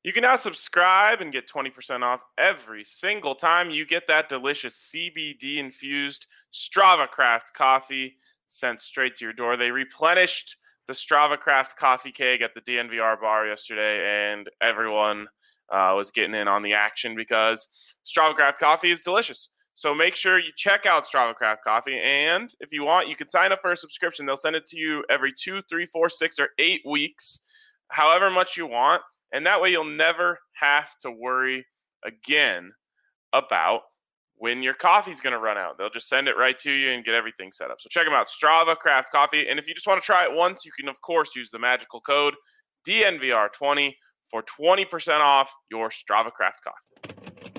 You can now subscribe and get 20% off every single time you get that delicious CBD-infused Strava Craft coffee sent straight to your door. They replenished the Strava Craft coffee keg at the DNVR bar yesterday, and everyone was getting in on the action because Strava Craft coffee is delicious. So make sure you check out Strava Craft coffee, and if you want, you can sign up for a subscription. They'll send it to you every 2, 3, 4, 6, or 8 weeks, however much you want. And that way you'll never have to worry again about when your coffee's going to run out. They'll just send it right to you and get everything set up. So check them out, Strava Craft Coffee. And if you just want to try it once, you can, of course, use the magical code DNVR20 for 20% off your Strava Craft Coffee.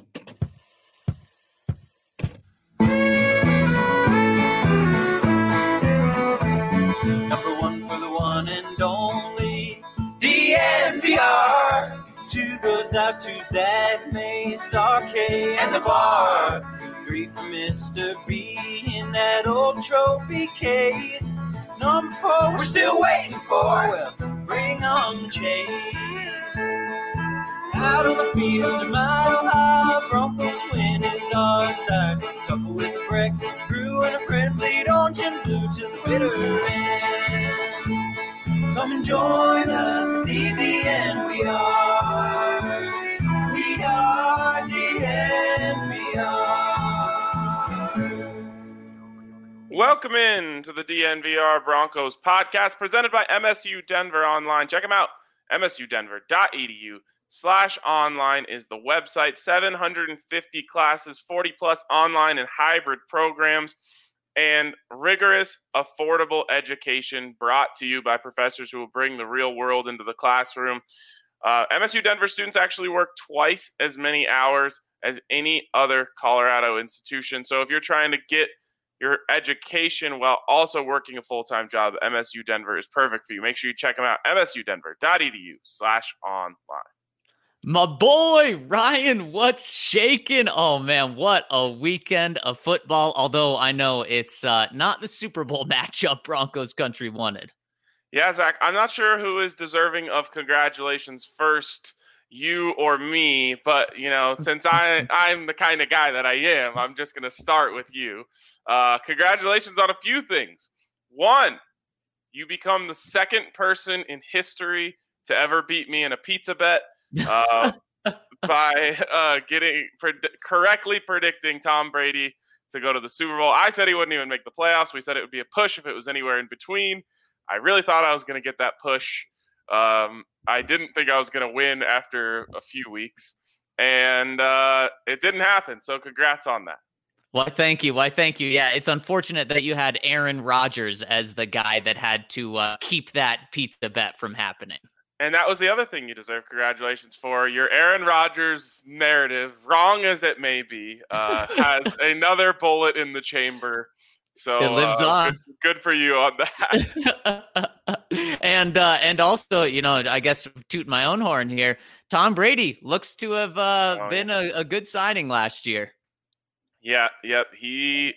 Number one for the one and only DNVR. 2 goes out to Zach Mace, RK, and the bar. 3 for Mr. B in that old trophy case. Number 4 we're still waiting for. Well, bring on the chase. Out on the field, a mile high, Broncos win is our desire. Couple with a break, crew and a friend, bleed orange and blue to the bitter end. Come and join us at the DNVR. We are DNVR. Welcome in to the DNVR Broncos podcast presented by MSU Denver Online. Check them out. msudenver.edu/online is the website. 750 classes, 40 plus online and hybrid programs, and rigorous, affordable education brought to you by professors who will bring the real world into the classroom. MSU Denver students actually work twice as many hours as any other Colorado institution. So if you're trying to get your education while also working a full-time job, MSU Denver is perfect for you. Make sure you check them out, msudenver.edu/online. My boy, Ryan, what's shaking? Oh, man, what a weekend of football. Although I know it's not the Super Bowl matchup Broncos country wanted. Yeah, Zach, I'm not sure who is deserving of congratulations first, you or me. But, you know, since I'm the kind of guy that I am, I'm just going to start with you. Congratulations on a few things. One, you become the second person in history to ever beat me in a pizza bet. By correctly predicting Tom Brady to go to the Super Bowl. I said he wouldn't even make the playoffs. We said it would be a push if it was anywhere in between. I really thought I was going to get that push. I didn't think I was going to win after a few weeks, and it didn't happen. So congrats on that. Why, thank you. Yeah, it's unfortunate that you had Aaron Rodgers as the guy that had to keep that pizza bet from happening. And that was the other thing you deserve congratulations for. Your Aaron Rodgers narrative, wrong as it may be, has another bullet in the chamber. So it lives on. Good for you on that. And also, you know, I guess toot my own horn here. Tom Brady looks to have been a good signing last year. Yeah. Yep. He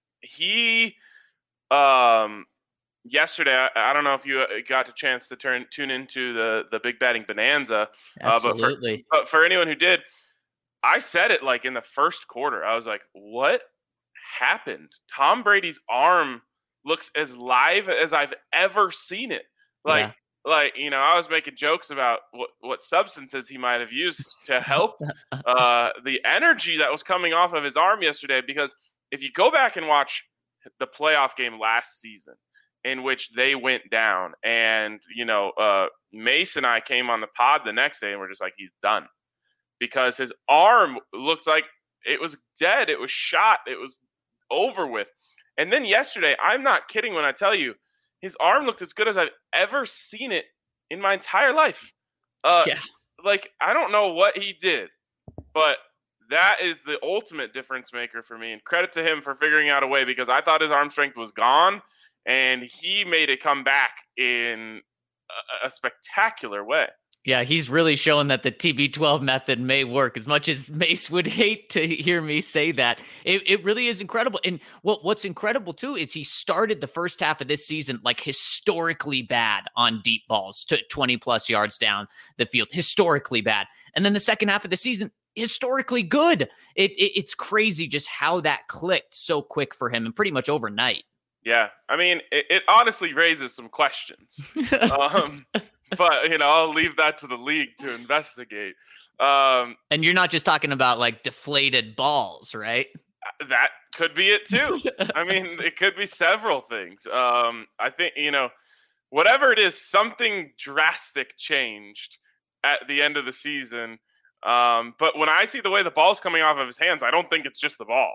yesterday, I don't know if you got a chance to tune into the Big Betting Bonanza. Absolutely. But for anyone who did, I said it like in the first quarter. I was like, what happened? Tom Brady's arm looks as live as I've ever seen it. Like, you know, I was making jokes about what substances he might have used to help the energy that was coming off of his arm yesterday. Because if you go back and watch the playoff game last season, in which they went down, and, you know, Mace and I came on the pod the next day and we're just like, he's done, because his arm looked like it was dead. It was shot. It was over with. And then yesterday, I'm not kidding when I tell you, his arm looked as good as I've ever seen it in my entire life. Like, I don't know what he did, but that is the ultimate difference maker for me. And credit to him for figuring out a way, because I thought his arm strength was gone. And he made it come back in a spectacular way. Yeah, he's really showing that the TB12 method may work. As much as Mace would hate to hear me say that, it really is incredible. And what's incredible too is he started the first half of this season like historically bad on deep balls to 20 plus yards down the field, historically bad. And then the second half of the season, historically good. It's crazy just how that clicked so quick for him and pretty much overnight. Yeah, I mean, it honestly raises some questions. But, I'll leave that to the league to investigate. And you're not just talking about like deflated balls, right? That could be it too. I mean, it could be several things. I think, whatever it is, something drastic changed at the end of the season. But when I see the way the ball's coming off of his hands, I don't think it's just the ball.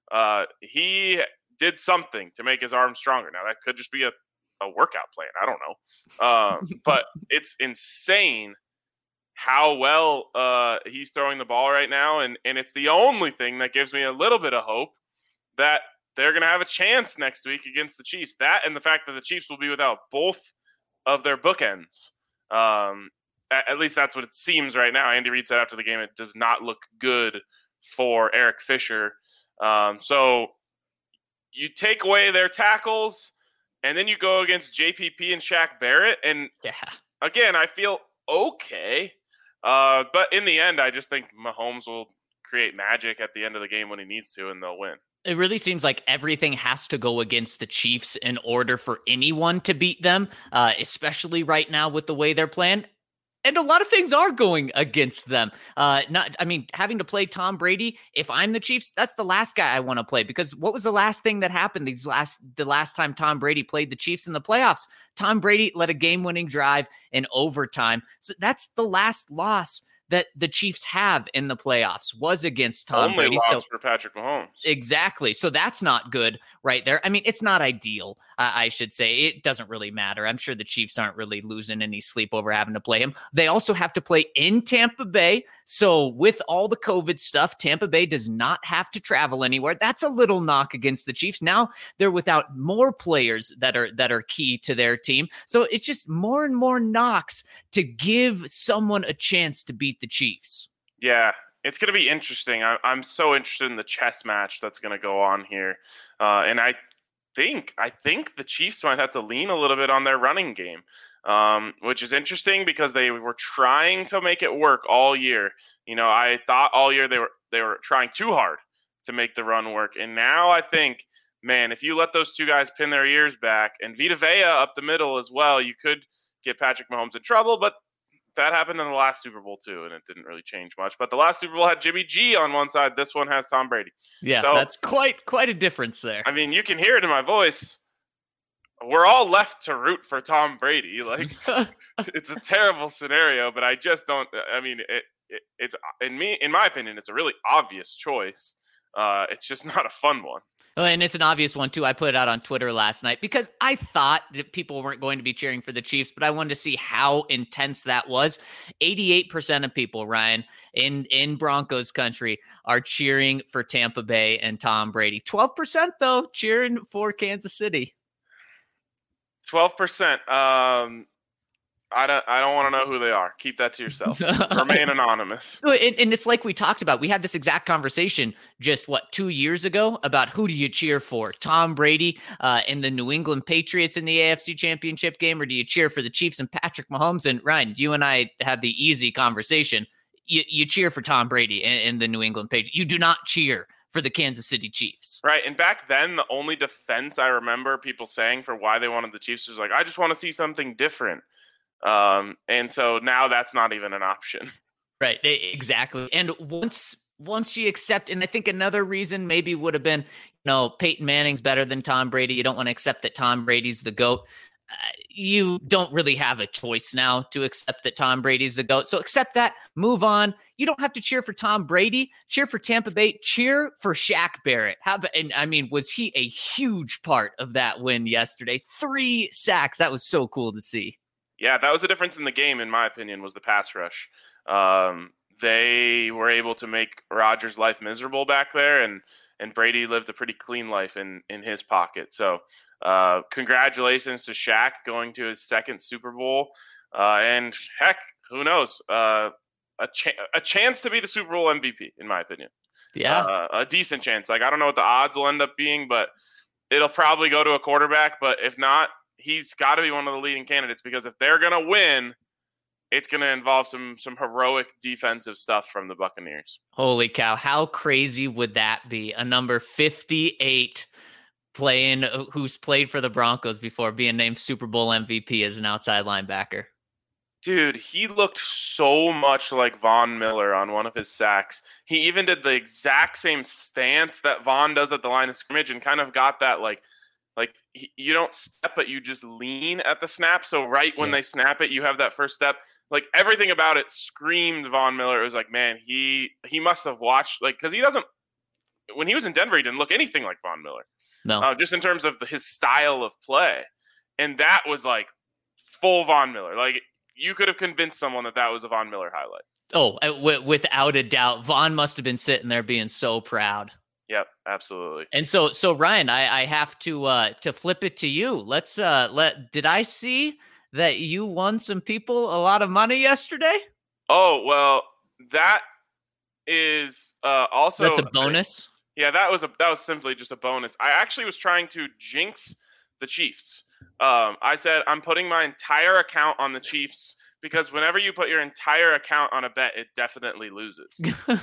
He did something to make his arm stronger. Now, that could just be a workout plan. I don't know. But it's insane how well he's throwing the ball right now. And it's the only thing that gives me a little bit of hope that they're going to have a chance next week against the Chiefs. That and the fact that the Chiefs will be without both of their bookends. At least that's what it seems right now. Andy Reid said after the game, it does not look good for Eric Fisher. So you take away their tackles, and then you go against JPP and Shaq Barrett. And again, I feel okay. But in the end, I just think Mahomes will create magic at the end of the game when he needs to, and they'll win. It really seems like everything has to go against the Chiefs in order for anyone to beat them, especially right now with the way they're playing. And a lot of things are going against them. Having to play Tom Brady, if I'm the Chiefs, that's the last guy I want to play, because what was the last thing that happened the last time Tom Brady played the Chiefs in the playoffs? Tom Brady led a game-winning drive in overtime. So that's the last loss that the Chiefs have in the playoffs was against Tom Brady. Loss for Patrick Mahomes. Exactly. So that's not good right there. I mean, it's not ideal, I should say. It doesn't really matter. I'm sure the Chiefs aren't really losing any sleep over having to play him. They also have to play in Tampa Bay. So with all the COVID stuff, Tampa Bay does not have to travel anywhere. That's a little knock against the Chiefs. Now they're without more players that are key to their team. So it's just more and more knocks to give someone a chance to beat the Chiefs. Yeah, it's going to be interesting. I'm so interested in the chess match that's going to go on here. And I think the Chiefs might have to lean a little bit on their running game, which is interesting because they were trying to make it work all year. I thought all year they were trying too hard to make the run work. And now I think, man, if you let those two guys pin their ears back and Vita Vea up the middle as well, you could get Patrick Mahomes in trouble. But that happened in the last Super Bowl too, and it didn't really change much. But the last Super Bowl had Jimmy G on one side. This one has Tom Brady. Yeah, so that's quite a difference there. I mean, you can hear it in my voice. We're all left to root for Tom Brady. Like, it's a terrible scenario, but I just don't. I mean, it's in my opinion, it's a really obvious choice. It's just not a fun one. And it's an obvious one, too. I put it out on Twitter last night because I thought that people weren't going to be cheering for the Chiefs, but I wanted to see how intense that was. 88% of people, Ryan, in Broncos country are cheering for Tampa Bay and Tom Brady. 12%, though, cheering for Kansas City. 12%. I don't want to know who they are. Keep that to yourself. Remain anonymous. And it's like we talked about. We had this exact conversation just, 2 years ago about who do you cheer for? Tom Brady and the New England Patriots in the AFC Championship game, or do you cheer for the Chiefs and Patrick Mahomes? And Ryan, you and I had the easy conversation. You cheer for Tom Brady and the New England Patriots. You do not cheer for the Kansas City Chiefs. Right. And back then, the only defense I remember people saying for why they wanted the Chiefs was like, I just want to see something different. And so now that's not even an option. Right. Exactly. And once you accept, and I think another reason maybe would have been, Peyton Manning's better than Tom Brady. You don't want to accept that Tom Brady's the GOAT. You don't really have a choice now to accept that Tom Brady's the GOAT. So accept that, move on. You don't have to cheer for Tom Brady. Cheer for Tampa Bay. Cheer for Shaq Barrett. Was he a huge part of that win yesterday? 3 sacks. That was so cool to see. Yeah, that was the difference in the game, in my opinion, was the pass rush. They were able to make Rodgers' life miserable back there, and Brady lived a pretty clean life in his pocket. So congratulations to Shaq going to his second Super Bowl. And heck, who knows? A chance to be the Super Bowl MVP, in my opinion. Yeah. A decent chance. Like, I don't know what the odds will end up being, but it'll probably go to a quarterback. But if not, he's got to be one of the leading candidates, because if they're going to win, it's going to involve some heroic defensive stuff from the Buccaneers. Holy cow. How crazy would that be? A number 58 who's played for the Broncos before, being named Super Bowl MVP as an outside linebacker. Dude, he looked so much like Von Miller on one of his sacks. He even did the exact same stance that Von does at the line of scrimmage, and kind of got that like you don't step, but you just lean at the snap. So right when they snap it, you have that first step. Like, everything about it screamed Von Miller. It was like, man, he must have watched, like, because he doesn't. When he was in Denver, he didn't look anything like Von Miller. No, just in terms of his style of play, and that was like full Von Miller. Like, you could have convinced someone that was a Von Miller highlight. Oh, without a doubt, Von must have been sitting there being so proud. Yep, absolutely. And so Ryan, I have to flip it to you. Did I see that you won some people a lot of money yesterday? Oh, well, that is also, that's a bonus. Yeah, that was simply just a bonus. I actually was trying to jinx the Chiefs. I said, I'm putting my entire account on the Chiefs, because whenever you put your entire account on a bet, it definitely loses.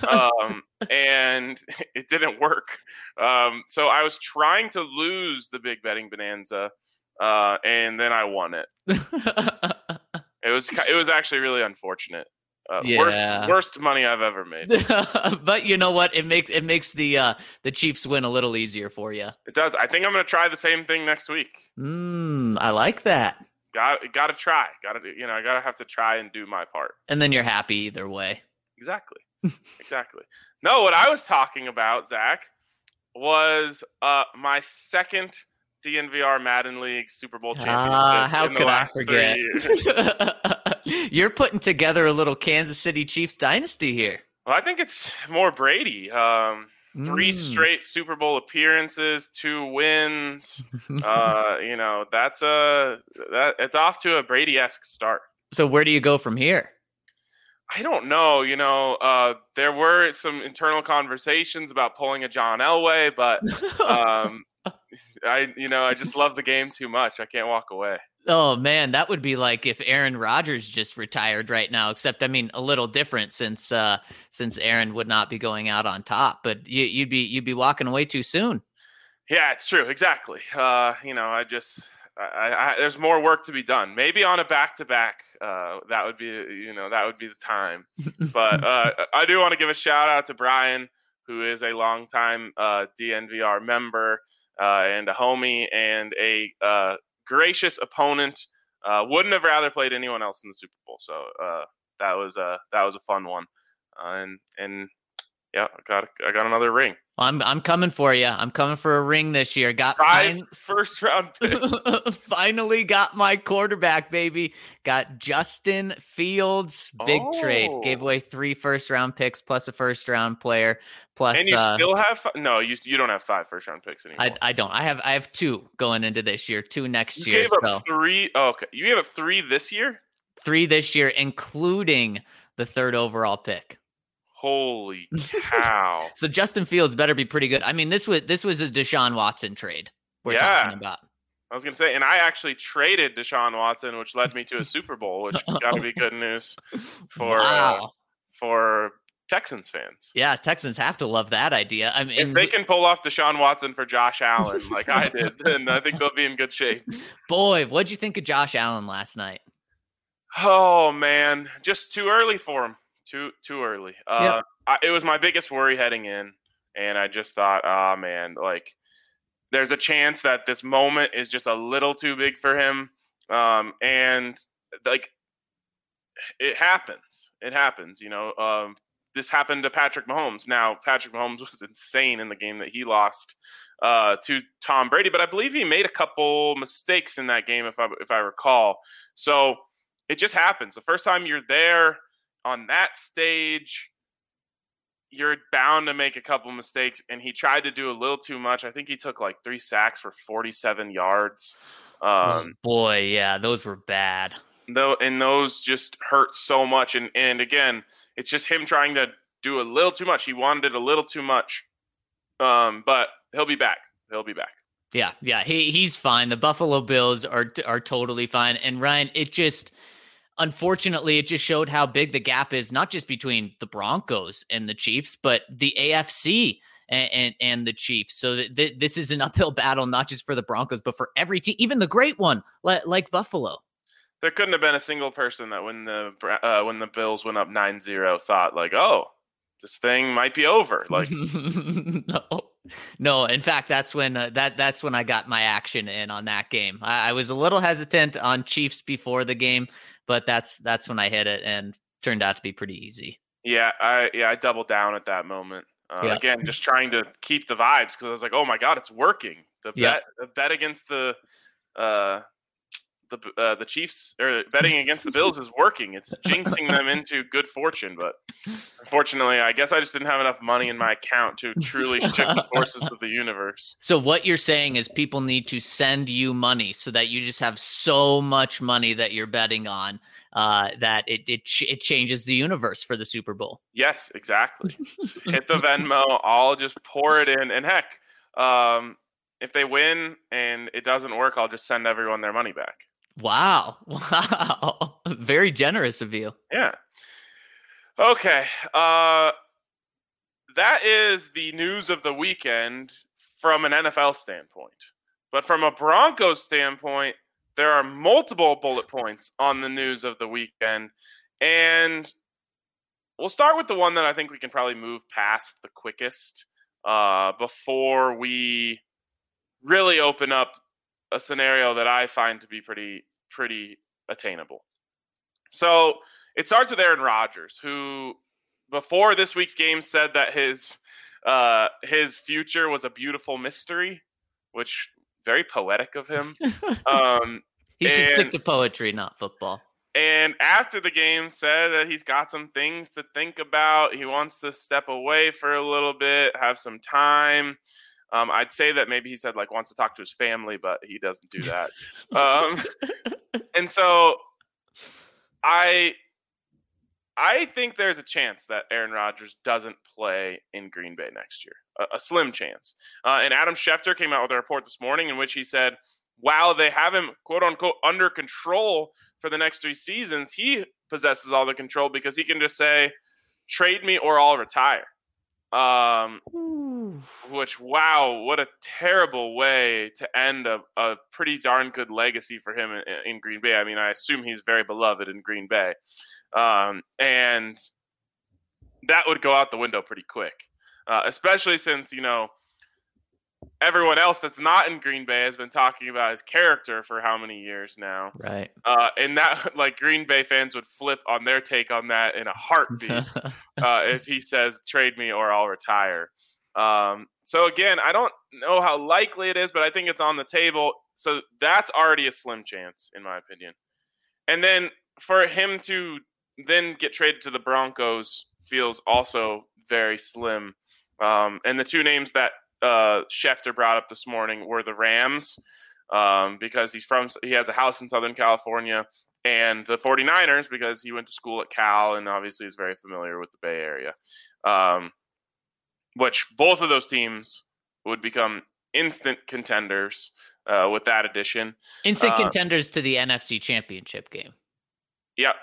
And it didn't work. So I was trying to lose the big betting bonanza, and then I won it. It was actually really unfortunate. Worst money I've ever made. But you know what? It makes the Chiefs win a little easier for you. It does. I think I'm going to try the same thing next week. I like that. Got to try. I got to have to try and do my part. And then you're happy either way. Exactly. No, what I was talking about, Zach, was my second DNVR Madden League Super Bowl championship. How could I forget? You're putting together a little Kansas City Chiefs dynasty here. Well, I think it's more Brady. 3 straight Super Bowl appearances, 2 wins. It's off to a Brady-esque start. So where do you go from here? I don't know. There were some internal conversations about pulling a John Elway, but I just love the game too much. I can't walk away. Oh man, that would be like if Aaron Rodgers just retired right now, except a little different since Aaron would not be going out on top, but you'd be walking away too soon. Yeah, it's true. Exactly. There's more work to be done. Maybe on a back-to-back, that would be the time. But I do want to give a shout out to Brian, who is a longtime DNVR member and a homie and a gracious opponent. Wouldn't have rather played anyone else in the Super Bowl. So that was a fun one. And yeah, I got another ring. I'm coming for you. I'm coming for a ring this year. Got 5 first round picks. Finally got my quarterback, baby. Got Justin Fields. Big trade. Gave away 3 first round picks plus a first round player. Plus, and you still have you don't have 5 first round picks anymore. I don't. I have 2 going into this year. 2 next year. You gave up 3. Oh, okay, you gave up 3 this year. 3 this year, including the 3rd overall pick. Holy cow. So Justin Fields better be pretty good. This was a Deshaun Watson trade we're talking about. I was going to say, and I actually traded Deshaun Watson, which led me to a Super Bowl, which got to be good news for Texans fans. Yeah, Texans have to love that idea. If they can pull off Deshaun Watson for Josh Allen like I did, then I think they'll be in good shape. Boy, what'd you think of Josh Allen last night? Oh, man. Just too early for him. Too early. Yep. It was my biggest worry heading in, and I just thought, man, like there's a chance that this moment is just a little too big for him, and like it happens. It happens, This happened to Patrick Mahomes. Now, Patrick Mahomes was insane in the game that he lost to Tom Brady, but I believe he made a couple mistakes in that game, if I recall. So it just happens. The first time you're there on that stage, you're bound to make a couple mistakes, and he tried to do a little too much. I think he took like 3 sacks for 47 yards. Boy, yeah, those were bad. and those just hurt so much. And again, it's just him trying to do a little too much. He wanted it a little too much. But he'll be back. Yeah, he's fine. The Buffalo Bills are totally fine. And Ryan, unfortunately, it just showed how big the gap is, not just between the Broncos and the Chiefs, but the AFC and the Chiefs. So this is an uphill battle, not just for the Broncos, but for every team, even the great one like Buffalo. There couldn't have been a single person that when the Bills went up 9-0 thought like, oh, this thing might be over. Like, no. In fact, that's when I got my action in on that game. I was a little hesitant on Chiefs before the game, but that's when I hit it and turned out to be pretty easy. Yeah, I doubled down at that moment. Again, just trying to keep the vibes because I was like, oh my God, it's working. The bet against the Chiefs, or betting against the Bills, is working. It's jinxing them into good fortune, but unfortunately, I guess I just didn't have enough money in my account to truly shift the forces of the universe. So what you're saying is people need to send you money so that you just have so much money that you're betting on that it changes the universe for the Super Bowl. Yes, exactly. Hit the Venmo, I'll just pour it in, and heck, if they win and it doesn't work, I'll just send everyone their money back. Wow. Very generous of you. Yeah. Okay. That is the news of the weekend from an NFL standpoint. But from a Broncos standpoint, there are multiple bullet points on the news of the weekend. And we'll start with the one that I think we can probably move past the quickest before we really open up a scenario that I find to be pretty attainable. So it starts with Aaron Rodgers, who before this week's game said that his future was a beautiful mystery, which very poetic of him. He should stick to poetry, not football. And after the game said that he's got some things to think about. He wants to step away for a little bit, have some time. I'd say that maybe he said wants to talk to his family, but he doesn't do that. And so I think there's a chance that Aaron Rodgers doesn't play in Green Bay next year, a slim chance. And Adam Schefter came out with a report this morning in which he said, while they have him, quote unquote, under control for the next 3 seasons, he possesses all the control because he can just say, trade me or I'll retire. Which, wow, what a terrible way to end a pretty darn good legacy for him in Green Bay. I mean, I assume he's very beloved in Green Bay. And that would go out the window pretty quick, especially since, everyone else that's not in Green Bay has been talking about his character for how many years now. Right. And that, Green Bay fans would flip on their take on that in a heartbeat if he says, trade me or I'll retire. So again, I don't know how likely it is, but I think it's on the table. So that's already a slim chance, in my opinion. And then for him to then get traded to the Broncos feels also very slim. And the two names that Schefter brought up this morning were the Rams, because he has a house in Southern California, and the 49ers because he went to school at Cal and obviously is very familiar with the Bay Area. Which both of those teams would become instant contenders with that addition. Instant contenders to the NFC Championship game. Yep.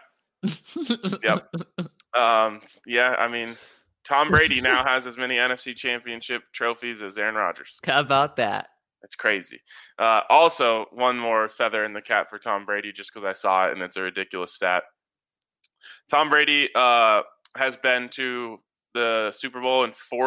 Yeah, I mean, Tom Brady now has as many NFC Championship trophies as Aaron Rodgers. How about that? That's crazy. Also, one more feather in the cap for Tom Brady, just because I saw it and it's a ridiculous stat. Tom Brady has been to the Super Bowl in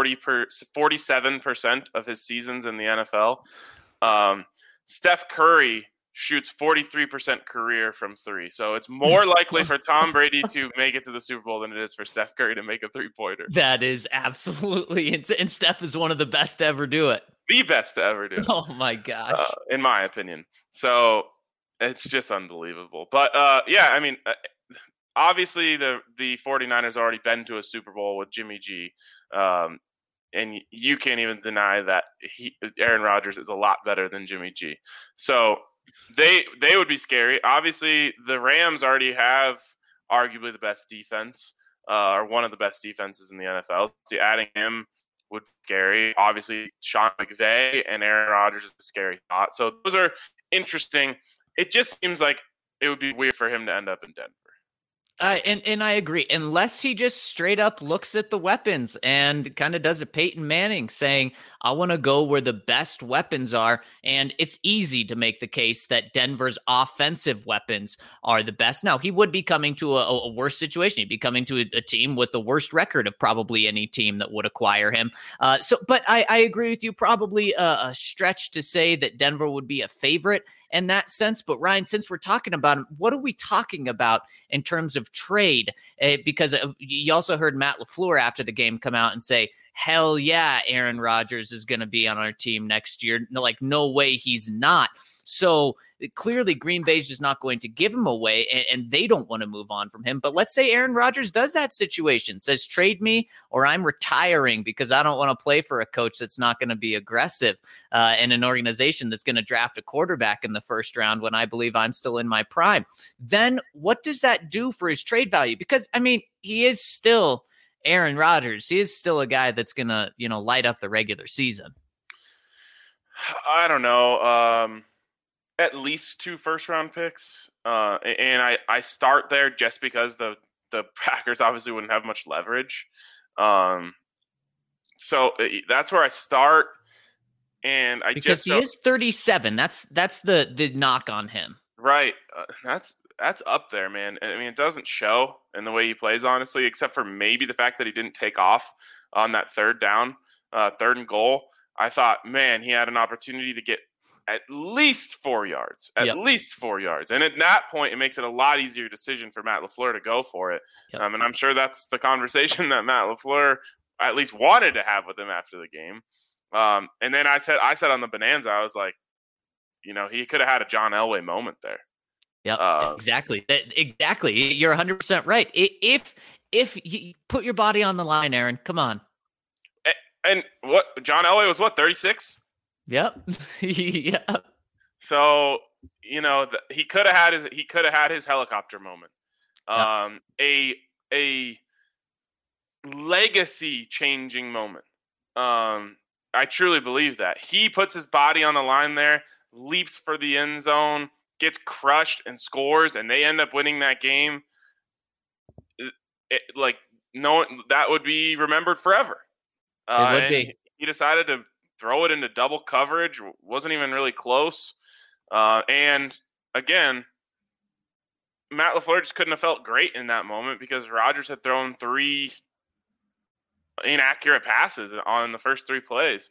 47% of his seasons in the NFL. Steph Curry shoots 43% career from 3. So it's more likely for Tom Brady to make it to the Super Bowl than it is for Steph Curry to make a 3-pointer. That is absolutely insane. And Steph is one of the best to ever do it. The best to ever do it. Oh my gosh. In my opinion. So it's just unbelievable. But yeah, I mean, obviously the 49ers already been to a Super Bowl with Jimmy G. And you can't even deny that Aaron Rodgers is a lot better than Jimmy G. So They would be scary. Obviously, the Rams already have arguably the best defense, or one of the best defenses in the NFL. So adding him would be scary. Obviously, Sean McVay and Aaron Rodgers is a scary thought. So those are interesting. It just seems like it would be weird for him to end up in Denver. And I agree, unless he just straight up looks at the weapons and kind of does a Peyton Manning saying, I want to go where the best weapons are. And it's easy to make the case that Denver's offensive weapons are the best. Now, he would be coming to a worse situation. He'd be coming to a team with the worst record of probably any team that would acquire him. But I agree with you, probably a stretch to say that Denver would be a favorite in that sense. But Ryan, since we're talking about him, what are we talking about in terms of trade? Because you also heard Matt LaFleur after the game come out and say, hell yeah, Aaron Rodgers is going to be on our team next year. Like, no way he's not. So clearly Green Bay's just not going to give him away, and they don't want to move on from him. But let's say Aaron Rodgers does that situation, says trade me or I'm retiring because I don't want to play for a coach that's not going to be aggressive and an organization that's going to draft a quarterback in the first round when I believe I'm still in my prime. Then what does that do for his trade value? Because, I mean, he is still Aaron Rodgers. He is still a guy that's going to, light up the regular season. I don't know. At least 2 first-round picks. And I start there just because the Packers obviously wouldn't have much leverage. So that's where I start. And because he is 37. That's the knock on him. Right. That's up there, man. I mean, it doesn't show in the way he plays, honestly, except for maybe the fact that he didn't take off on that third and goal. I thought, man, he had an opportunity to get at least 4 yards, least 4 yards. And at that point, it makes it a lot easier decision for Matt LaFleur to go for it. Yep. And I'm sure that's the conversation that Matt LaFleur at least wanted to have with him after the game. And then I said on the Bonanza, I was like, he could have had a John Elway moment there. Yeah, exactly. Exactly. You're 100% right. If you put your body on the line, Aaron, come on. And what John Elway was 36? Yep. Yeah. So, he could have had his helicopter moment. A legacy changing moment. I truly believe that. He puts his body on the line there, leaps for the end zone, gets crushed and scores, and they end up winning that game. That would be remembered forever. It would be. He decided to throw it into double coverage, wasn't even really close. And again, Matt LaFleur just couldn't have felt great in that moment because Rodgers had thrown 3 inaccurate passes on the first 3 plays.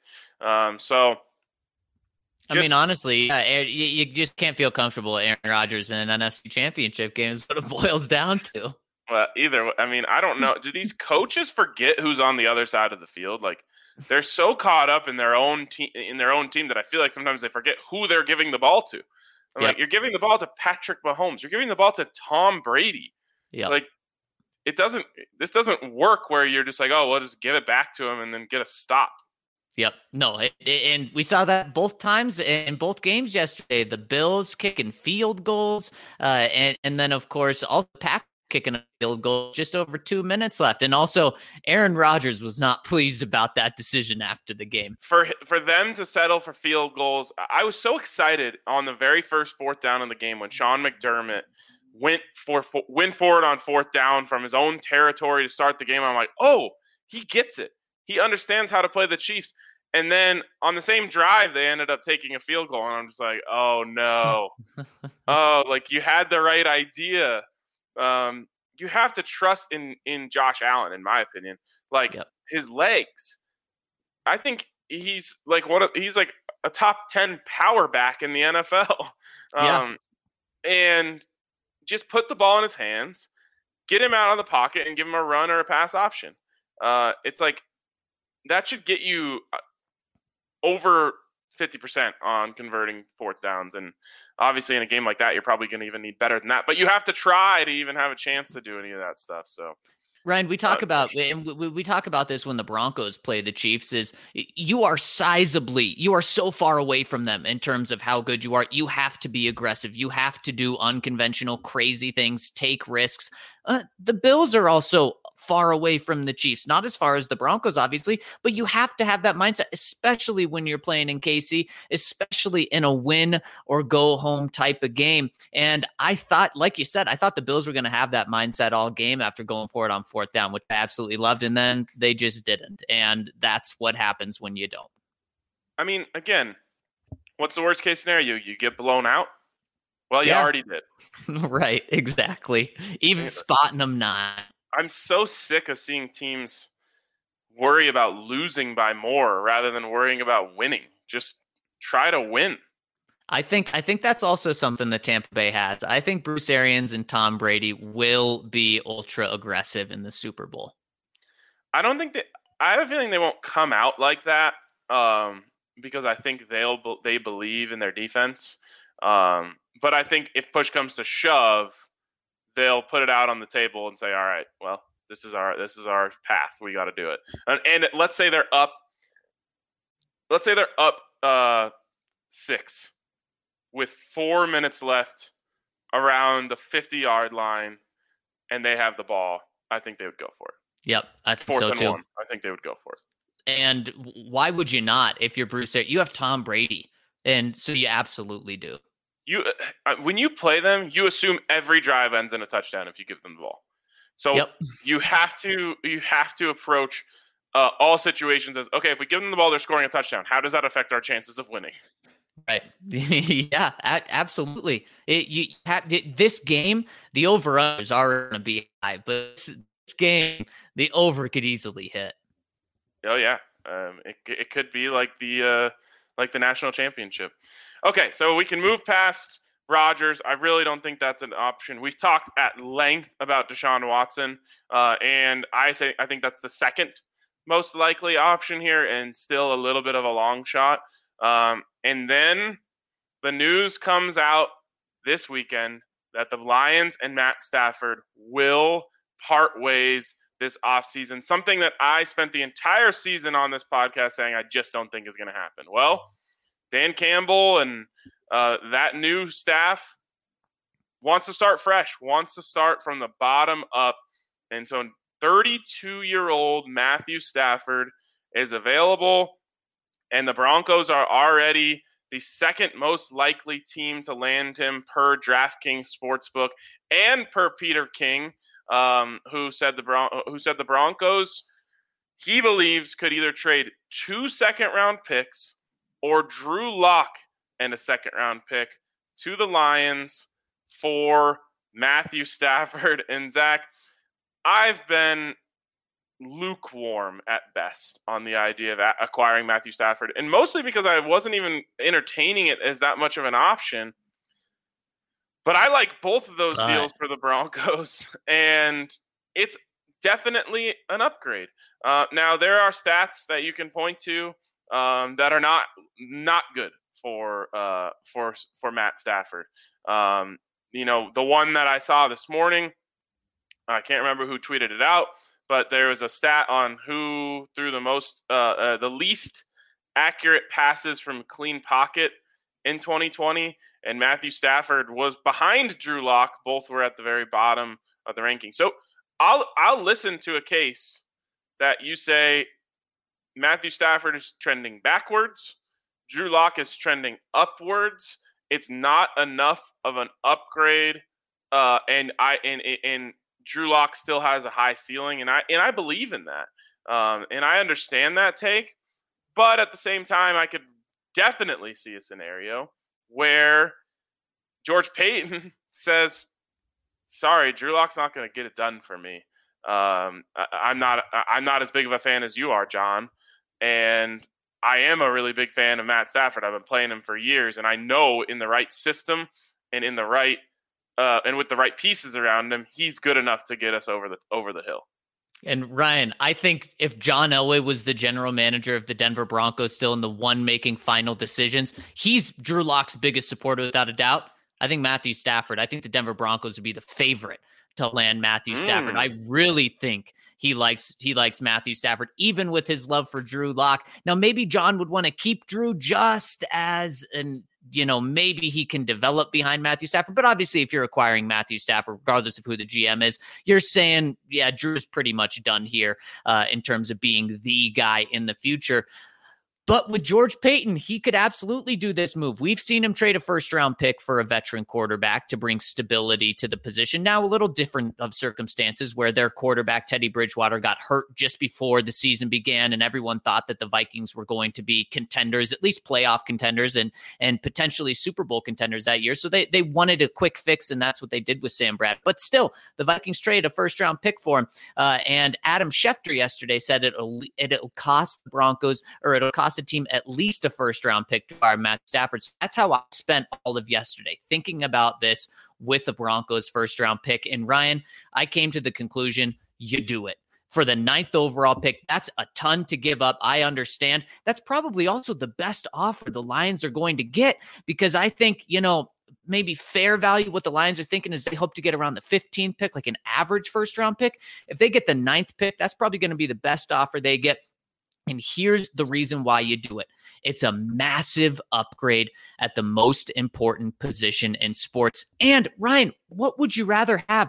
I mean, honestly, you just can't feel comfortable with Aaron Rodgers in an NFC Championship game is what it boils down to. Well, I don't know. Do these coaches forget who's on the other side of the field? Like, they're so caught up in their own team that I feel like sometimes they forget who they're giving the ball to. Like, you're giving the ball to Patrick Mahomes. You're giving the ball to Tom Brady. Yeah. Like, this doesn't work where you're just like, oh, we'll just give it back to him and then get a stop. Yep. No, and we saw that both times in both games yesterday. The Bills kicking field goals, and then, of course, all the Packers kicking a field goal just over 2 minutes left. And also, Aaron Rodgers was not pleased about that decision after the game. For them to settle for field goals, I was so excited on the very first 4th down of the game when Sean McDermott went forward on 4th down from his own territory to start the game. I'm like, oh, he gets it. He understands how to play the Chiefs. And then on the same drive, they ended up taking a field goal. And I'm just like, oh, no. You had the right idea. You have to trust in Josh Allen, in my opinion. His legs. I think he's he's like a top 10 power back in the NFL. And just put the ball in his hands, get him out of the pocket, and give him a run or a pass option. It's like that should get you over 50% on converting 4th downs. And obviously in a game like that, you're probably going to even need better than that. But you have to try to even have a chance to do any of that stuff. So Ryan, we talk about this when the Broncos play the Chiefs, is you are so far away from them in terms of how good you are. You have to be aggressive. You have to do unconventional, crazy things, take risks. The Bills are also far away from the Chiefs, not as far as the Broncos, obviously, but you have to have that mindset, especially when you're playing in KC, especially in a win or go home type of game. And I thought, like you said, I thought the Bills were going to have that mindset all game after going for it on fourth down, which I absolutely loved. And then they just didn't. And that's what happens when you don't. I mean, again, what's the worst case scenario? You get blown out? Well, you already did. Right, exactly. Even spotting them not. I'm so sick of seeing teams worry about losing by more rather than worrying about winning. Just try to win. I think that's also something that Tampa Bay has. I think Bruce Arians and Tom Brady will be ultra aggressive in the Super Bowl. I have a feeling they won't come out like that because I think they believe in their defense. But I think if push comes to shove, they'll put it out on the table and say, all right, well, this is our path. We got to do it. And let's say they're up 6 with 4 minutes left around the 50-yard line and they have the ball. I think they would go for it. Yep. I think so too. 1. I think they would go for it. And why would you not? If you're Bruce, you have Tom Brady. And so you absolutely do. When you play them, you assume every drive ends in a touchdown if you give them the ball. So you have to approach all situations as, okay, if we give them the ball, they're scoring a touchdown. How does that affect our chances of winning? Right. Yeah, absolutely. This game, the over is already going to be high, but this game, the over could easily hit. Oh yeah. It could be like the national championship. Okay, so we can move past Rodgers. I really don't think that's an option. We've talked at length about Deshaun Watson, and I think that's the second most likely option here, and still a little bit of a long shot. And then the news comes out this weekend that the Lions and Matt Stafford will part ways this offseason, something that I spent the entire season on this podcast saying I just don't think is going to happen. Well, Dan Campbell and that new staff wants to start fresh, wants to start from the bottom up. And so 32-year-old Matthew Stafford is available, and the Broncos are already the second most likely team to land him per DraftKings Sportsbook and per Peter King, who said the Broncos, he believes, could either trade 2 second-round picks or Drew Lock and a second-round pick to the Lions for Matthew Stafford. And Zach, I've been lukewarm at best on the idea of acquiring Matthew Stafford, and mostly because I wasn't even entertaining it as that much of an option. But I like both of those deals for the Broncos, and it's definitely an upgrade. Now, there are stats that you can point to that are not good for Matt Stafford. The one that I saw this morning, I can't remember who tweeted it out, but there was a stat on who threw the least accurate passes from clean pocket in 2020, and Matthew Stafford was behind Drew Lock. Both were at the very bottom of the ranking. So I'll listen to a case that you say Matthew Stafford is trending backwards, Drew Lock is trending upwards. It's not enough of an upgrade, and Drew Lock still has a high ceiling, and I believe in that, and I understand that take. But at the same time, I could definitely see a scenario where George Payton says, "Sorry, Drew Lock's not going to get it done for me. I'm not as big of a fan as you are, John, and I am a really big fan of Matt Stafford. I've been playing him for years, and I know in the right system and in the right and with the right pieces around him, he's good enough to get us over the hill." And Ryan, I think if John Elway was the general manager of the Denver Broncos, still in the one making final decisions, he's Drew Lock's biggest supporter without a doubt. I think the Denver Broncos would be the favorite to land Matthew Stafford. I really think he likes Matthew Stafford, even with his love for Drew Lock. Now, maybe John would want to keep Drew just as maybe he can develop behind Matthew Stafford. But obviously, if you're acquiring Matthew Stafford, regardless of who the GM is, you're saying, yeah, Drew's pretty much done here in terms of being the guy in the future. But with George Paton, he could absolutely do this move. We've seen him trade a first-round pick for a veteran quarterback to bring stability to the position. Now, a little different of circumstances where their quarterback, Teddy Bridgewater, got hurt just before the season began, and everyone thought that the Vikings were going to be contenders, at least playoff contenders, and potentially Super Bowl contenders that year. So they wanted a quick fix, and that's what they did with Sam Bradford. But still, the Vikings traded a first-round pick for him. And Adam Schefter yesterday said it'll cost the Broncos, or it'll cost the team at least a first-round pick to acquire Matt Stafford. So that's how I spent all of yesterday, thinking about this with the Broncos first-round pick. And Ryan, I came to the conclusion, you do it. For the 9th overall pick, that's a ton to give up. I understand. That's probably also the best offer the Lions are going to get, because I think, maybe fair value, what the Lions are thinking is they hope to get around the 15th pick, like an average first-round pick. If they get the 9th pick, that's probably going to be the best offer they get. And here's the reason why you do it. It's a massive upgrade at the most important position in sports. And Ryan, what would you rather have?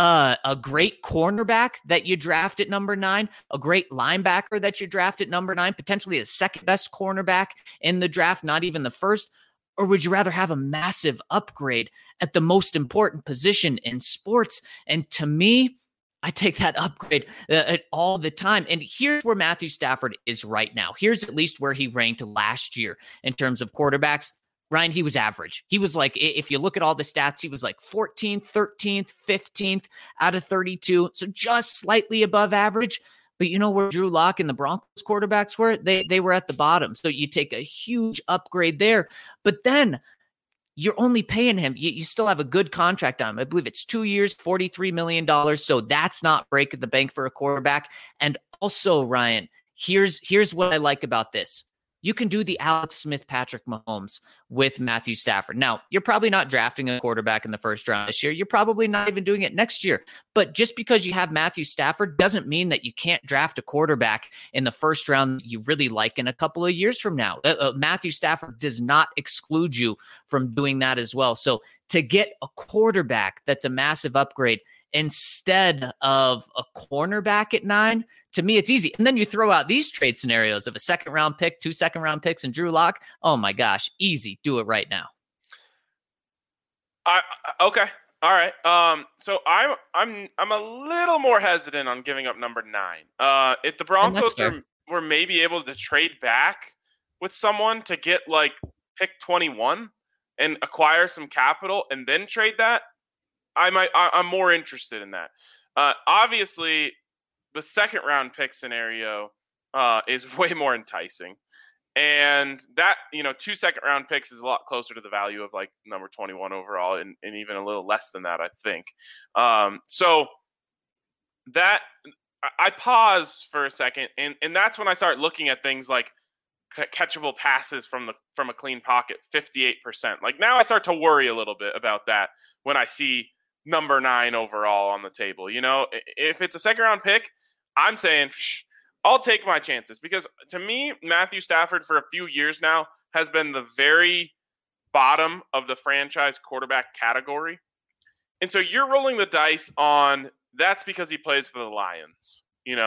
A great cornerback that you draft at number 9, a great linebacker that you draft at number 9, potentially the second best cornerback in the draft, not even the first? Or would you rather have a massive upgrade at the most important position in sports? And to me, I take that upgrade all the time. And here's where Matthew Stafford is right now. Here's at least where he ranked last year in terms of quarterbacks. Ryan, he was average. He was like, if you look at all the stats, he was like 14th, 13th, 15th out of 32. So just slightly above average. But you know where Drew Lock and the Broncos quarterbacks were? They were at the bottom. So you take a huge upgrade there. But then you're only paying him. You still have a good contract on him. I believe it's 2 years, $43 million. So that's not breaking the bank for a quarterback. And also, Ryan, here's what I like about this. You can do the Alex Smith, Patrick Mahomes with Matthew Stafford. Now, you're probably not drafting a quarterback in the first round this year. You're probably not even doing it next year. But just because you have Matthew Stafford doesn't mean that you can't draft a quarterback in the first round that you really like in a couple of years from now. Matthew Stafford does not exclude you from doing that as well. So to get a quarterback that's a massive upgrade instead of a cornerback at 9, to me, it's easy. And then you throw out these trade scenarios of a second-round pick, 2 second-round picks, and Drew Lock. Oh my gosh, easy. Do it right now. Okay, all right. So I'm a little more hesitant on giving up number 9. If the Broncos were maybe able to trade back with someone to get like pick 21 and acquire some capital and then trade that, I'm more interested in that. Obviously, the second round pick scenario is way more enticing. And that, 2 second round picks is a lot closer to the value of like number 21 overall and even a little less than that, I think. So that I pause for a second. And that's when I start looking at things like catchable passes from a clean pocket, 58%. Like now I start to worry a little bit about that when I see number 9 overall on the table. If it's a second round pick, I'm saying I'll take my chances, because to me, Matthew Stafford for a few years now has been the very bottom of the franchise quarterback category. And so you're rolling the dice on that's because he plays for the Lions,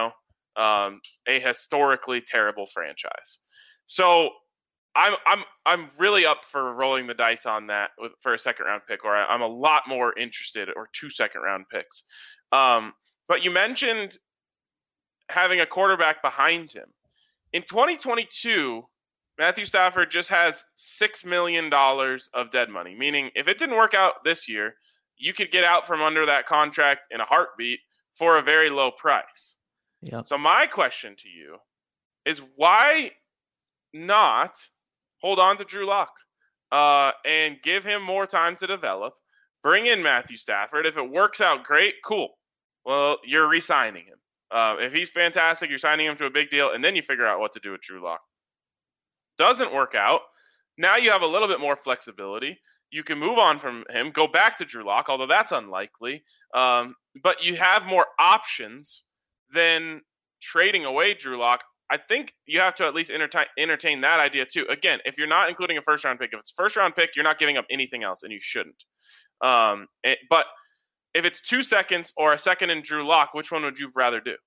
a historically terrible franchise. So I'm really up for rolling the dice on that for a second round pick, or I'm a lot more interested, or 2 second round picks. But you mentioned having a quarterback behind him. In 2022, Matthew Stafford just has $6 million of dead money, meaning if it didn't work out this year, you could get out from under that contract in a heartbeat for a very low price. Yep. So my question to you is, why not hold on to Drew Lock and give him more time to develop, bring in Matthew Stafford? If it works out great, cool. Well, you're re-signing him. If he's fantastic, you're signing him to a big deal, and then you figure out what to do with Drew Lock. Doesn't work out. Now you have a little bit more flexibility. You can move on from him, go back to Drew Lock, although that's unlikely. But you have more options then trading away Drew Lock, I think you have to at least entertain that idea too. Again, if you're not including a first round pick, if it's a first round pick, you're not giving up anything else, and you shouldn't. But if it's 2 seconds or a second in Drew Lock, which one would you rather do?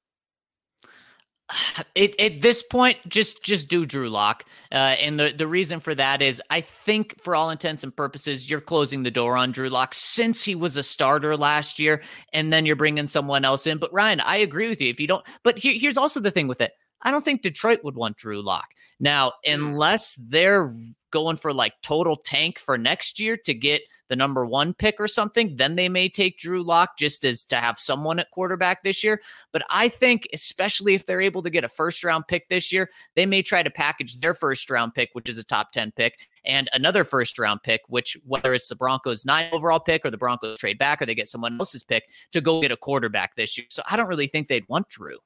At this point, just do Drew Lock. And the reason for that is I think for all intents and purposes, you're closing the door on Drew Lock since he was a starter last year, and then you're bringing someone else in. But Ryan, I agree with you. If you don't, but here's also the thing with it. I don't think Detroit would want Drew Lock. Now, unless they're going for like total tank for next year to get the number 1 pick or something, then they may take Drew Lock just as to have someone at quarterback this year. But I think, especially if they're able to get a first round pick this year, they may try to package their first round pick, which is a top 10 pick, and another first round pick, which whether it's the Broncos 9 overall pick or the Broncos trade back or they get someone else's pick to go get a quarterback this year. So I don't really think they'd want Drew.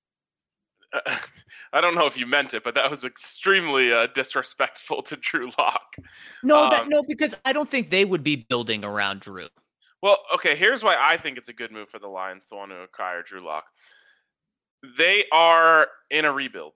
I don't know if you meant it, but that was extremely disrespectful to Drew Lock. No, because I don't think they would be building around Drew. Well, okay, here's why I think it's a good move for the Lions to want to acquire Drew Lock. They are in a rebuild,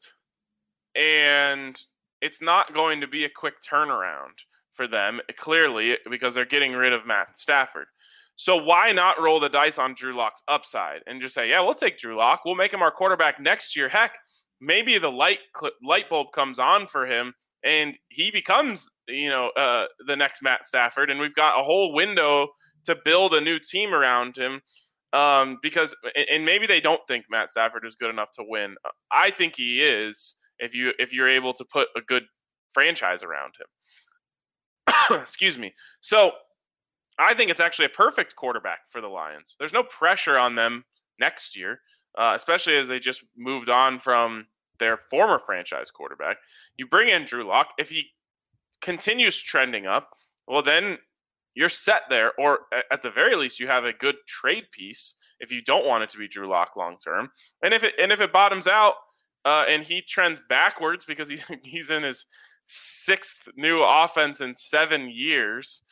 and it's not going to be a quick turnaround for them, clearly, because they're getting rid of Matt Stafford. So why not roll the dice on Drew Lock's upside and just say, yeah, we'll take Drew Lock. We'll make him our quarterback next year. Heck, maybe the light bulb comes on for him and he becomes, the next Matt Stafford. And we've got a whole window to build a new team around him because maybe they don't think Matt Stafford is good enough to win. I think he is if you're able to put a good franchise around him. Excuse me. So I think it's actually a perfect quarterback for the Lions. There's no pressure on them next year, especially as they just moved on from their former franchise quarterback. You bring in Drew Lock. If he continues trending up, well, then you're set there. Or at the very least, you have a good trade piece if you don't want it to be Drew Lock long term. And if it bottoms out and he trends backwards because he's in his 6th new offense in 7 years,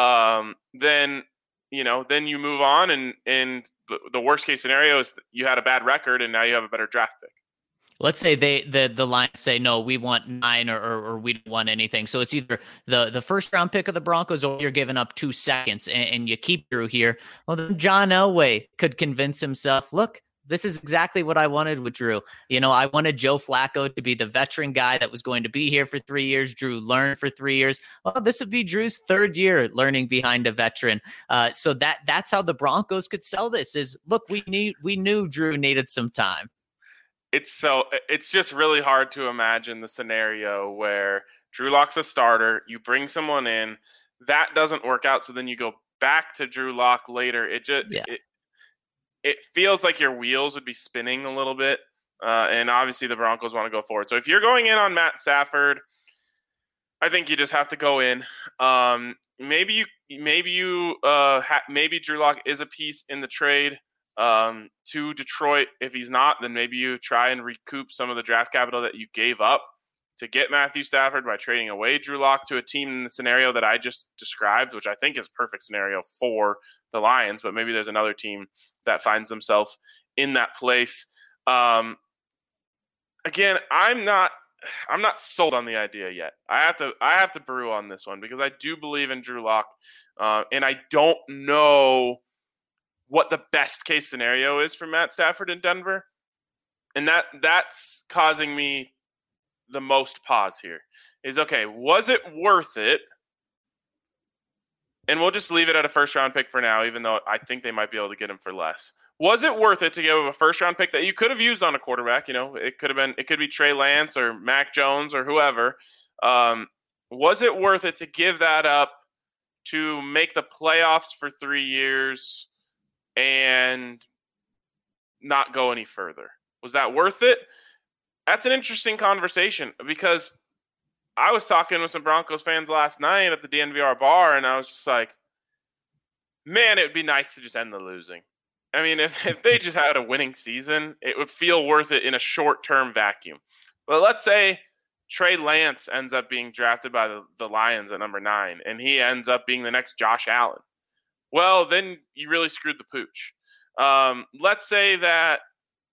then you move on and the worst case scenario is you had a bad record and now you have a better draft pick. Let's say the Lions say, no, we want 9 or we don't want anything. So it's either the first round pick of the Broncos or you're giving up 2 seconds and you keep Drew here. Well, then John Elway could convince himself, look, this is exactly what I wanted with Drew. I wanted Joe Flacco to be the veteran guy that was going to be here for 3 years. Drew learned for 3 years. Well, this would be Drew's 3rd year learning behind a veteran. So that's how the Broncos could sell this is, look, we knew Drew needed some time. It's just really hard to imagine the scenario where Drew Lock's a starter, you bring someone in, that doesn't work out, so then you go back to Drew Lock later. It feels like your wheels would be spinning a little bit, and obviously the Broncos want to go forward. So if you're going in on Matt Stafford, I think you just have to go in. Maybe Drew Lock is a piece in the trade to Detroit. If he's not, then maybe you try and recoup some of the draft capital that you gave up to get Matthew Stafford by trading away Drew Lock to a team in the scenario that I just described, which I think is a perfect scenario for the Lions, but maybe there's another team that finds themselves in that place. Again, I'm not sold on the idea yet. I have to brew on this one because I do believe in Drew Lock, and I don't know what the best case scenario is for Matt Stafford in Denver, and that's causing me the most pause here. Is okay, was it worth it? And we'll just leave it at a first-round pick for now, even though I think they might be able to get him for less. Was it worth it to give a first-round pick that you could have used on a quarterback? It could be Trey Lance or Mac Jones or whoever. Was it worth it to give that up to make the playoffs for 3 years and not go any further? Was that worth it? That's an interesting conversation because I was talking with some Broncos fans last night at the DNVR bar, and I was just like, man, it would be nice to just end the losing. I mean, if they just had a winning season, it would feel worth it in a short-term vacuum. But let's say Trey Lance ends up being drafted by the Lions at number 9, and he ends up being the next Josh Allen. Well, then you really screwed the pooch. Let's say that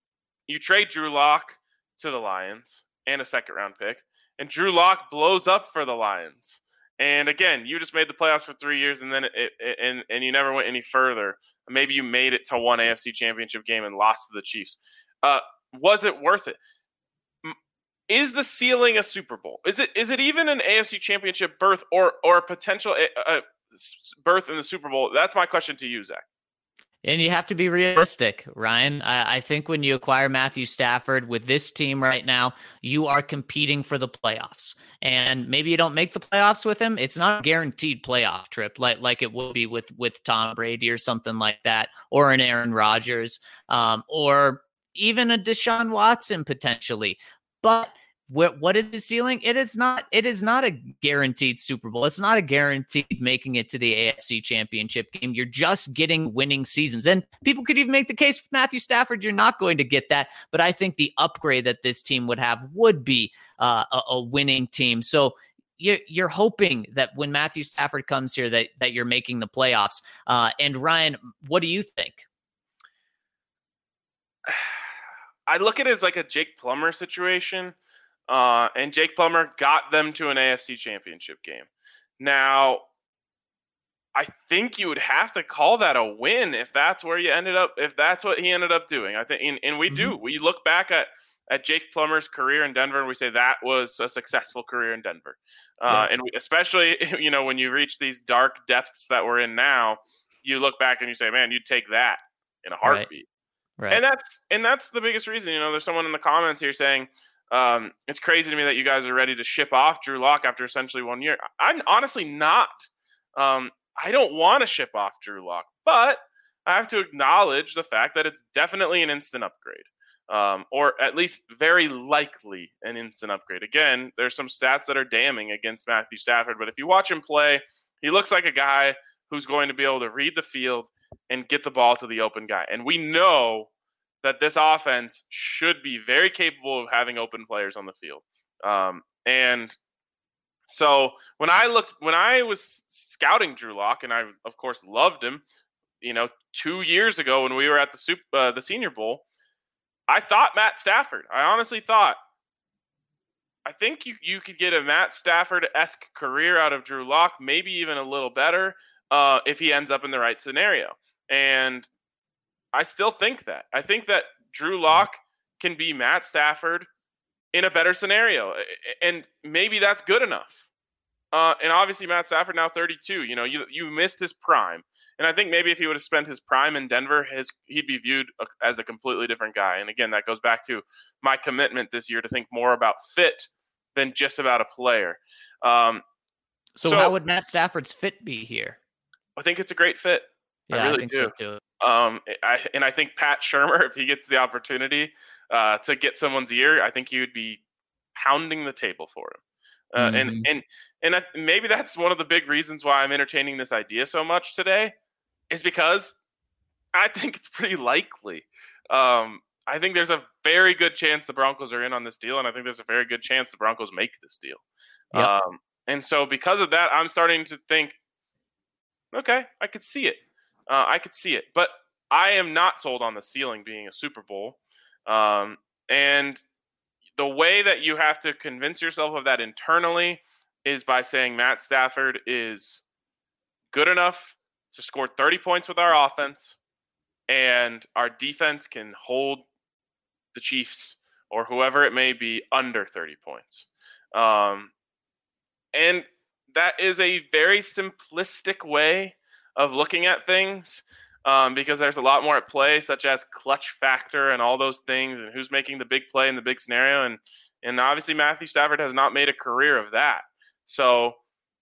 you trade Drew Lock to the Lions and a second-round pick, and Drew Lock blows up for the Lions. And again, you just made the playoffs for 3 years, and then and you never went any further. Maybe you made it to one AFC Championship game and lost to the Chiefs. Was it worth it? Is the ceiling a Super Bowl? Is it even an AFC Championship berth or a potential berth in the Super Bowl? That's my question to you, Zach. And you have to be realistic, Ryan. I think when you acquire Matthew Stafford with this team right now, you are competing for the playoffs. And maybe you don't make the playoffs with him. It's not a guaranteed playoff trip like it will be with Tom Brady or something like that, or an Aaron Rodgers, or even a Deshaun Watson potentially. But what is the ceiling? It is not a guaranteed Super Bowl. It's not a guaranteed making it to the AFC Championship game. You're just getting winning seasons. And people could even make the case with Matthew Stafford, you're not going to get that. But I think the upgrade that this team would have would be a winning team. So you're hoping that when Matthew Stafford comes here that you're making the playoffs. And Ryan, what do you think? I look at it as like a Jake Plummer situation. And Jake Plummer got them to an AFC Championship game. Now, I think you would have to call that a win if that's where you ended up, if that's what he ended up doing. I think, and we do. We look back at Jake Plummer's career in Denver, and we say that was a successful career in Denver. And especially, when you reach these dark depths that we're in now, you look back and you say, man, you'd take that in a heartbeat. Right. And that's the biggest reason. There's someone in the comments here saying, it's crazy to me that you guys are ready to ship off Drew Lock after essentially 1 year. I'm honestly not. I don't want to ship off Drew Lock, but I have to acknowledge the fact that it's definitely an instant upgrade, or at least very likely an instant upgrade. Again, there's some stats that are damning against Matthew Stafford, but if you watch him play, he looks like a guy who's going to be able to read the field and get the ball to the open guy. And we know that this offense should be very capable of having open players on the field. And so when I was scouting Drew Lock, and I, of course, loved him, 2 years ago when we were at the Senior Bowl, I thought Matt Stafford. I honestly thought, I think you could get a Matt Stafford-esque career out of Drew Lock, maybe even a little better if he ends up in the right scenario. And I still think that. I think that Drew Lock can be Matt Stafford in a better scenario. And maybe that's good enough. And obviously Matt Stafford now 32. You missed his prime. And I think maybe if he would have spent his prime in Denver, he'd be viewed as a completely different guy. And again, that goes back to my commitment this year to think more about fit than just about a player. So how would Matt Stafford's fit be here? I think it's a great fit. Yeah, I really think do. So too. I think Pat Shurmur, if he gets the opportunity to get someone's ear, I think he would be pounding the table for him. And maybe that's one of the big reasons why I'm entertaining this idea so much today, is because I think it's pretty likely. I think there's a very good chance the Broncos are in on this deal, and I think there's a very good chance the Broncos make this deal. Yep. And so because of that, I'm starting to think, okay, I could see it. But I am not sold on the ceiling being a Super Bowl. And the way that you have to convince yourself of that internally is by saying Matt Stafford is good enough to score 30 points with our offense, and our defense can hold the Chiefs or whoever it may be under 30 points. And that is a very simplistic way of looking at things, because there's a lot more at play, such as clutch factor and all those things, and who's making the big play in the big scenario. And obviously Matthew Stafford has not made a career of that. So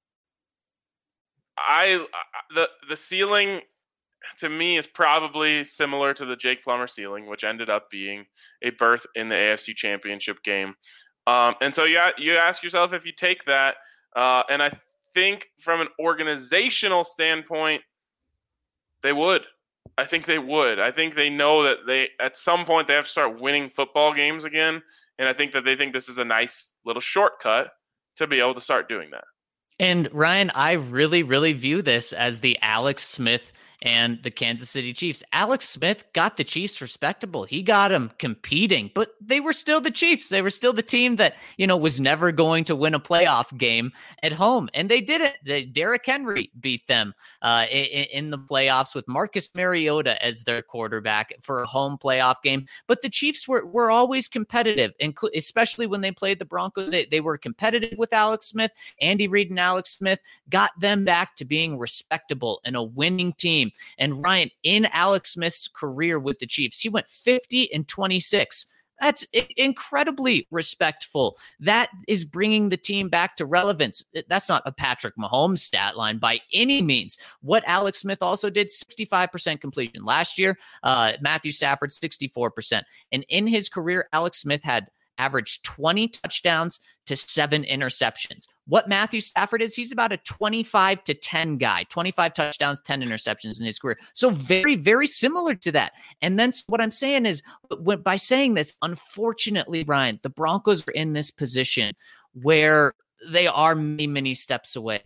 the ceiling to me is probably similar to the Jake Plummer ceiling, which ended up being a berth in the AFC Championship game. And so you ask yourself if you take that, and I think from an organizational standpoint, they would. I think they would. I think they know that they at some point they have to start winning football games again, and I think that they think this is a nice little shortcut to be able to start doing that. And Ryan, I really, really view this as the Alex Smith and the Kansas City Chiefs. Alex Smith got the Chiefs respectable. He got them competing, but they were still the Chiefs. They were still the team that, was never going to win a playoff game at home. And they did it. Derrick Henry beat them in the playoffs with Marcus Mariota as their quarterback for a home playoff game. But the Chiefs were always competitive, especially when they played the Broncos. They were competitive with Alex Smith. Andy Reid and Alex Smith got them back to being respectable and a winning team. And Ryan, in Alex Smith's career with the Chiefs, he went 50-26. That's incredibly respectful. That is bringing the team back to relevance. That's not a Patrick Mahomes stat line by any means. What Alex Smith also did, 65% completion. Last year, Matthew Stafford, 64%. And in his career, Alex Smith had averaged 20 touchdowns to 7 interceptions. What Matthew Stafford is, he's about a 25-10 guy, 25 touchdowns, 10 interceptions in his career. So very, very similar to that. And then what I'm saying is, by saying this, unfortunately, Ryan, the Broncos are in this position where they are many, many steps away.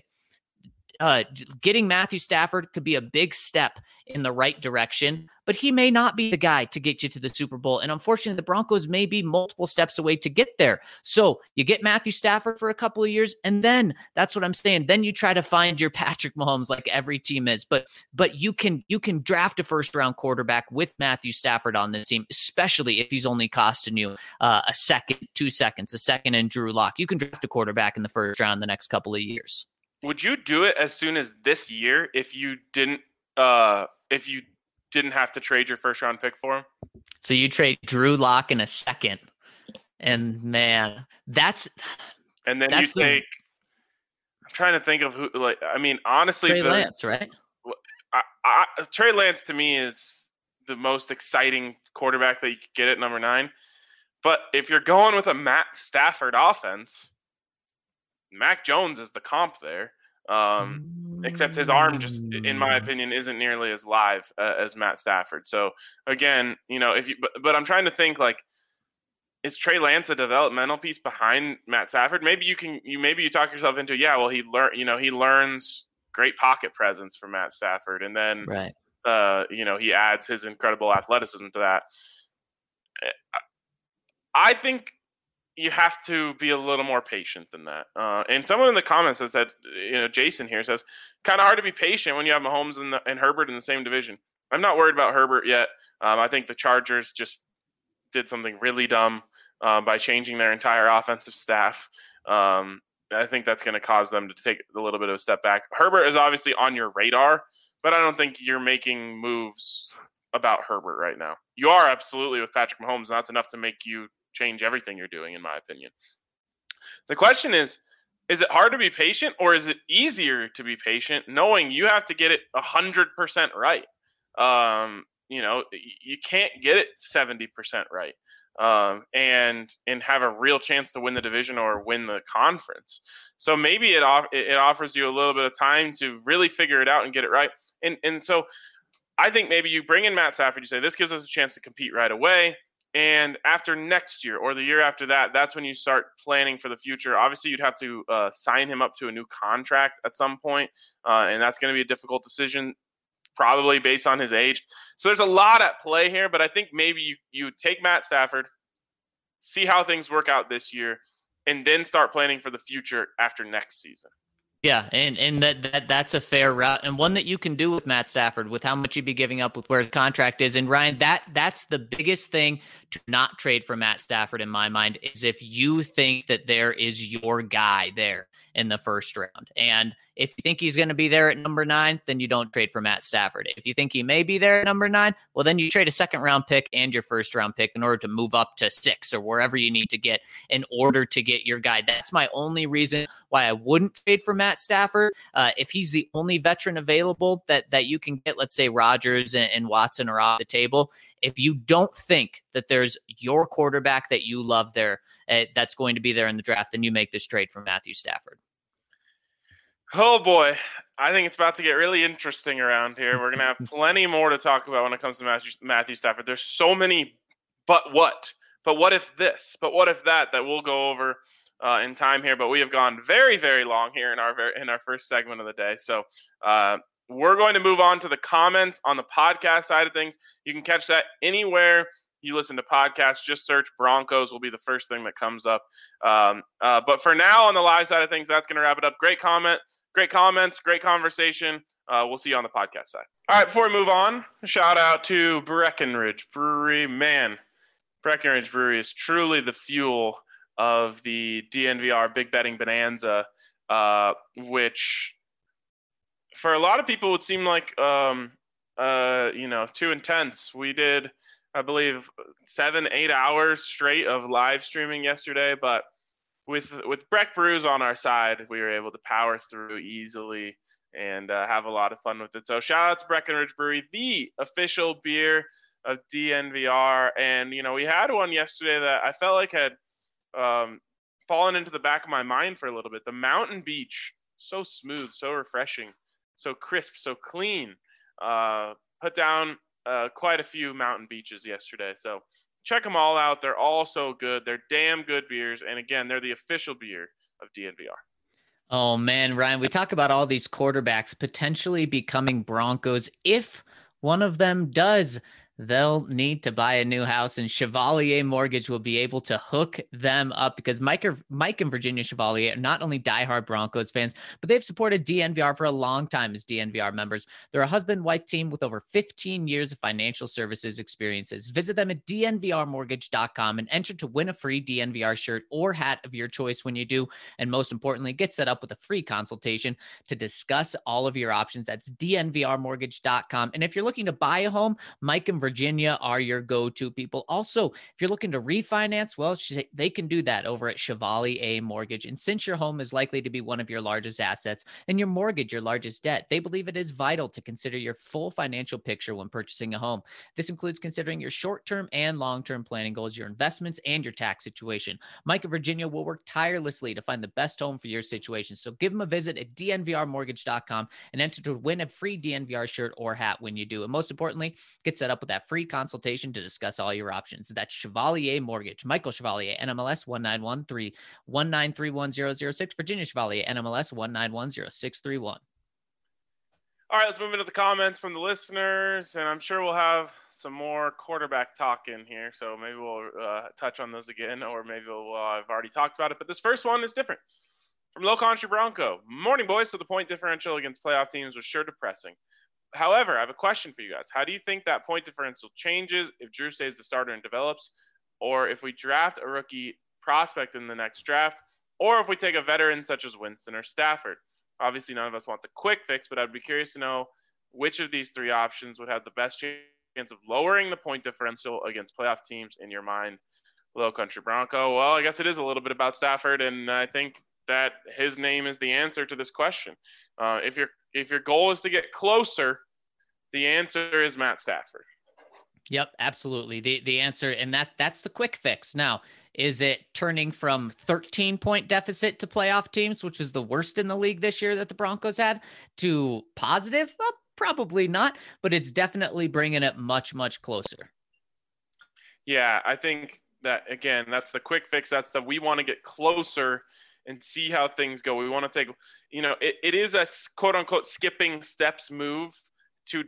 Getting Matthew Stafford could be a big step in the right direction, but he may not be the guy to get you to the Super Bowl. And unfortunately, the Broncos may be multiple steps away to get there. So you get Matthew Stafford for a couple of years, and then that's what I'm saying. Then you try to find your Patrick Mahomes like every team is. But you can draft a first-round quarterback with Matthew Stafford on this team, especially if he's only costing you a second, 2 seconds, a second in Drew Lock. You can draft a quarterback in the first round the next couple of years. Would you do it as soon as this year if you didn't have to trade your first round pick for him? So you trade Drew Lock in a second, and man, and then you take. I'm trying to think of who. Honestly, Trey Lance, right? Trey Lance to me is the most exciting quarterback that you could get at number 9. But if you're going with a Matt Stafford offense, Mac Jones is the comp there, except his arm just, in my opinion, isn't nearly as live as Matt Stafford. So again, but I'm trying to think, is Trey Lance a developmental piece behind Matt Stafford? Maybe you talk yourself into, he learns great pocket presence from Matt Stafford, and then right. He adds his incredible athleticism to that. I think you have to be a little more patient than that. And someone in the comments that said, Jason here says, kind of hard to be patient when you have Mahomes and Herbert in the same division. I'm not worried about Herbert yet. I think the Chargers just did something really dumb by changing their entire offensive staff. I think that's going to cause them to take a little bit of a step back. Herbert is obviously on your radar, but I don't think you're making moves about Herbert right now. You are absolutely with Patrick Mahomes, and that's enough to make you change everything you're doing, in my opinion. The question is it hard to be patient, or is it easier to be patient knowing you have to get it 100% right? You can't get it 70% right and have a real chance to win the division or win the conference. So maybe it offers you a little bit of time to really figure it out and get it right. And so I think maybe you bring in Matt Stafford, you say, this gives us a chance to compete right away. And after next year or the year after that, that's when you start planning for the future. Obviously, you'd have to sign him up to a new contract at some point, and that's going to be a difficult decision, probably based on his age. So there's a lot at play here, but I think maybe you take Matt Stafford, see how things work out this year, and then start planning for the future after next season. Yeah, and that's a fair route, and one that you can do with Matt Stafford with how much you'd be giving up with where his contract is. And Ryan, that's the biggest thing to not trade for Matt Stafford in my mind, is if you think that there is your guy there in the first round. And if you think he's going to be there at number 9, then you don't trade for Matt Stafford. If you think he may be there at number 9, well, then you trade a second-round pick and your first-round pick in order to move up to 6 or wherever you need to get in order to get your guy. That's my only reason why I wouldn't trade for Matt Stafford. If he's the only veteran available that you can get, let's say Rodgers and Watson are off the table. If you don't think that there's your quarterback that you love there, that's going to be there in the draft, then you make this trade for Matthew Stafford. Oh boy, I think it's about to get really interesting around here. We're going to have plenty more to talk about when it comes to Matthew Stafford. There's so many, but what if this, but what if that we'll go over in time here. But we have gone very, very long here in our first segment of the day. So we're going to move on to the comments on the podcast side of things. You can catch that anywhere you listen to podcasts. Just search Broncos will be the first thing that comes up. But for now, on the live side of things, that's going to wrap it up. Great comments, great conversation. We'll see you on the podcast side. All right, before we move on, a shout out to Breckenridge Brewery. Man, Breckenridge Brewery is truly the fuel of the DNVR Big Betting Bonanza, which for a lot of people would seem like too intense. We did, I believe, 7-8 hours straight of live streaming yesterday, but with Breck Brews on our side, we were able to power through easily and have a lot of fun with it. So shout out to Breckenridge Brewery, the official beer of DNVR. And, we had one yesterday that I felt like had fallen into the back of my mind for a little bit. The Mountain Beach, so smooth, so refreshing, so crisp, so clean. Put down quite a few Mountain Beaches yesterday. So check them all out. They're all so good. They're damn good beers. And again, they're the official beer of DNVR. Oh, man, Ryan, we talk about all these quarterbacks potentially becoming Broncos. If one of them does, they'll need to buy a new house, and Chevalier Mortgage will be able to hook them up because Mike and Virginia Chevalier are not only diehard Broncos fans, but they've supported DNVR for a long time as DNVR members. They're a husband-wife team with over 15 years of financial services experiences. Visit them at dnvrmortgage.com and enter to win a free DNVR shirt or hat of your choice when you do. And most importantly, get set up with a free consultation to discuss all of your options. That's dnvrmortgage.com. And if you're looking to buy a home, Mike and Virginia are your go-to people. Also, if you're looking to refinance, well, they can do that over at Chevalier Mortgage. And since your home is likely to be one of your largest assets and your mortgage your largest debt, they believe it is vital to consider your full financial picture when purchasing a home. This includes considering your short-term and long-term planning goals, your investments, and your tax situation. Mike and Virginia will work tirelessly to find the best home for your situation. So give them a visit at dnvrmortgage.com and enter to win a free DNVR shirt or hat when you do. And most importantly, get set up with that free consultation to discuss all your options. That's Chevalier Mortgage. Michael Chevalier, NMLS 19131931006. Virginia Chevalier, NMLS 1910631. All right, let's move into the comments from the listeners, and I'm sure we'll have some more quarterback talk in here, so maybe we'll touch on those again, or maybe I've already talked about it, but this first one is different. From Low Country Bronco. Morning, boys. So the point differential against playoff teams was sure depressing. However, I have a question for you guys. How do you think that point differential changes if Drew stays the starter and develops, or if we draft a rookie prospect in the next draft, or if we take a veteran such as Winston or Stafford? Obviously, none of us want the quick fix, but I'd be curious to know which of these three options would have the best chance of lowering the point differential against playoff teams in your mind, Low Country Bronco. Well, I guess it is a little bit about Stafford, and I think that his name is the answer to this question. If your goal is to get closer, the answer is Matt Stafford. Yep, absolutely. The answer, and that's the quick fix. Now, is it turning from 13-point deficit to playoff teams, which is the worst in the league this year that the Broncos had, to positive? Well, probably not, but it's definitely bringing it much, much closer. Yeah, I think that, again, that's the quick fix. We want to get closer and see how things go. We want to take, it is a quote unquote skipping steps move to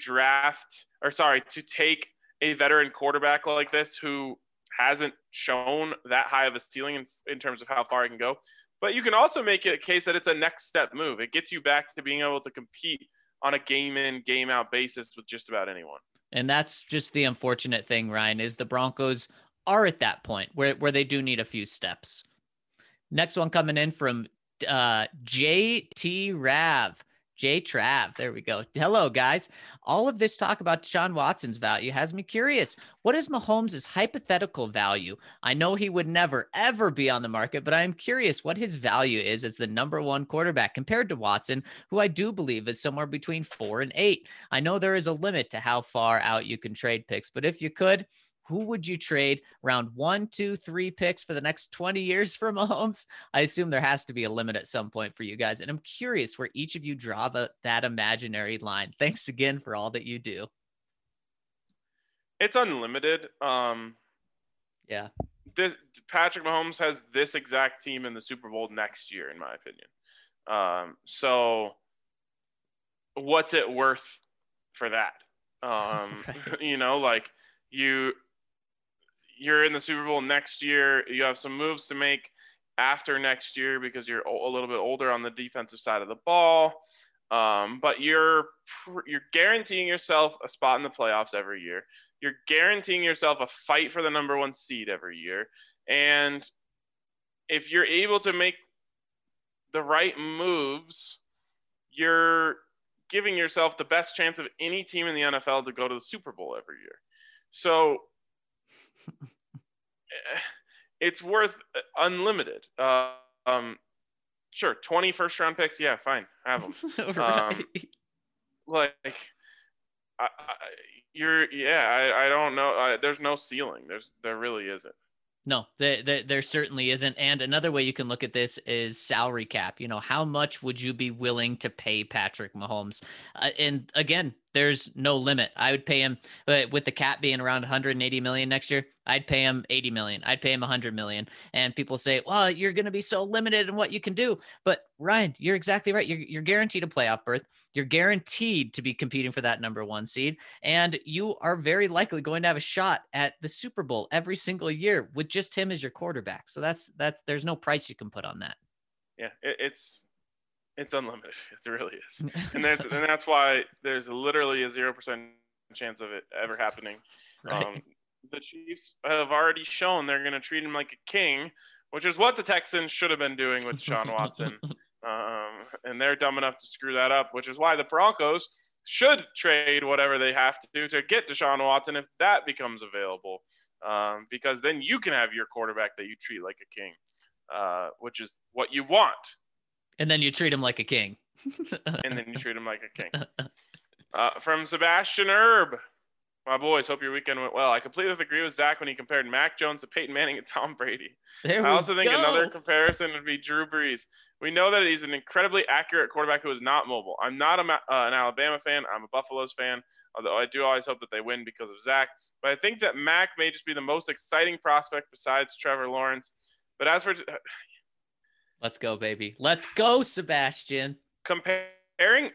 take a veteran quarterback like this who hasn't shown that high of a ceiling in terms of how far he can go. But you can also make it a case that it's a next step move. It gets you back to being able to compete on a game in, game out basis with just about anyone. And that's just the unfortunate thing, Ryan, is the Broncos are at that point where they do need a few steps. Next one coming in from JT Rav. J-Trav. There we go. Hello, guys. All of this talk about Deshaun Watson's value has me curious. What is Mahomes' hypothetical value? I know he would never, ever be on the market, but I am curious what his value is as the number one quarterback compared to Watson, who I do believe is somewhere between 4 and 8. I know there is a limit to how far out you can trade picks, but if you could, who would you trade round 1, 2, 3 picks for the next 20 years for Mahomes? I assume there has to be a limit at some point for you guys. And I'm curious where each of you draw that imaginary line. Thanks again for all that you do. It's unlimited. Yeah. Patrick Mahomes has this exact team in the Super Bowl next year, in my opinion. So what's it worth for that? Right. You know, like you're in the Super Bowl next year. You have some moves to make after next year because you're a little bit older on the defensive side of the ball. But you're guaranteeing yourself a spot in the playoffs every year. You're guaranteeing yourself a fight for the number 1 seed every year. And if you're able to make the right moves, you're giving yourself the best chance of any team in the NFL to go to the Super Bowl every year. So it's worth unlimited. Sure, 20 first-round picks, yeah, fine, have them. Right. Like, I don't know. There's no ceiling. There really isn't. No, there certainly isn't. And another way you can look at this is salary cap. You know, how much would you be willing to pay Patrick Mahomes? And again, there's no limit. I would pay him with the cap being around 180 million next year. I'd pay him 80 million. I'd pay him 100 million. And people say, well, you're going to be so limited in what you can do. But Ryan, you're exactly right. You're guaranteed a playoff berth. You're guaranteed to be competing for that number 1 seed. And you are very likely going to have a shot at the Super Bowl every single year with just him as your quarterback. So that's there's no price you can put on that. Yeah, it's unlimited. It really is. And that's why there's literally a 0% chance of it ever happening. Right. The Chiefs have already shown they're going to treat him like a king, which is what the Texans should have been doing with Deshaun Watson. And they're dumb enough to screw that up, which is why the Broncos should trade whatever they have to get Deshaun Watson if that becomes available. Because then you can have your quarterback that you treat like a king, which is what you want. And then you treat him like a king. And then you treat him like a king. From Sebastian Erb. My boys, hope your weekend went well. I completely agree with Zach when he compared Mac Jones to Peyton Manning and Tom Brady. I also think another comparison would be Drew Brees. We know that he's an incredibly accurate quarterback who is not mobile. I'm not an Alabama fan. I'm a Buffaloes fan, although I do always hope that they win because of Zach. But I think that Mac may just be the most exciting prospect besides Trevor Lawrence. But as for let's go, baby. Let's go, Sebastian. Comparing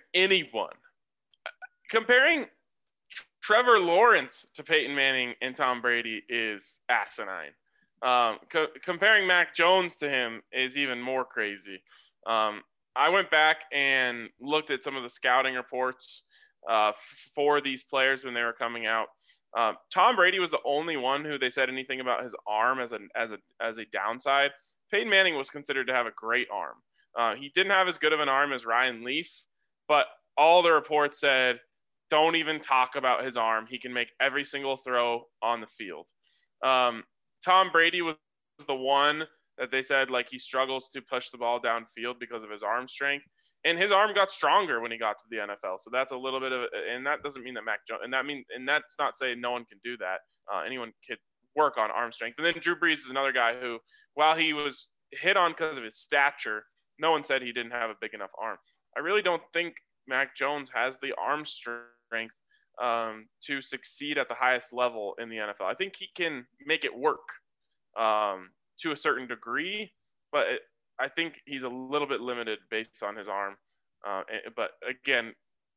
Trevor Lawrence to Peyton Manning and Tom Brady is asinine. Comparing Mac Jones to him is even more crazy. I went back and looked at some of the scouting reports for these players when they were coming out. Tom Brady was the only one who they said anything about his arm as a downside. Peyton Manning was considered to have a great arm. He didn't have as good of an arm as Ryan Leaf, but all the reports said, don't even talk about his arm. He can make every single throw on the field. Tom Brady was the one that they said, like, he struggles to push the ball downfield because of his arm strength. And his arm got stronger when he got to the NFL. So that's a little bit of – and that doesn't mean that Mac Jones – and that's not saying no one can do that. Anyone could work on arm strength. And then Drew Brees is another guy who, while he was hit on because of his stature, no one said he didn't have a big enough arm. I really don't think Mac Jones has the arm strength to succeed at the highest level in the NFL. I think he can make it work to a certain degree, but I think he's a little bit limited based on his arm. But again,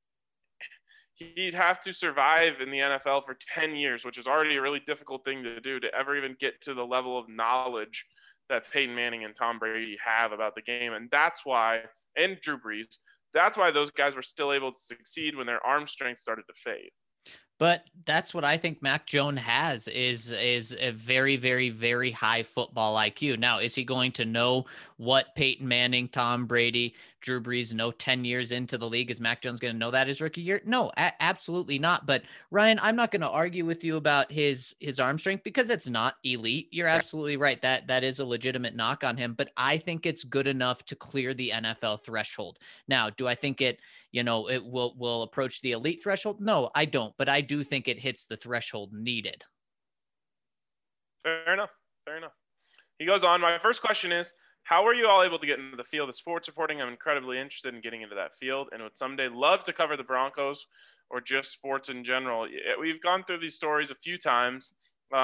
he'd have to survive in the NFL for 10 years, which is already a really difficult thing to do, to ever even get to the level of knowledge that Peyton Manning and Tom Brady have about the game. And that's why, and Drew Brees, that's why those guys were still able to succeed when their arm strength started to fade. But that's what I think Mac Jones has is a very, very, very high football IQ. Now, is he going to know what Peyton Manning, Tom Brady, Drew Brees know 10 years into the league? Is Mac Jones going to know that his rookie year? No, absolutely not. But Ryan, I'm not going to argue with you about his arm strength because it's not elite. You're absolutely right. That is a legitimate knock on him, but I think it's good enough to clear the NFL threshold. Now, do I think it will approach the elite threshold? No, I don't, but I do think it hits the threshold needed. Fair enough. He goes on. My first question is, how were you all able to get into the field of sports reporting? I'm incredibly interested in getting into that field and would someday love to cover the Broncos or just sports in general. We've gone through these stories a few times.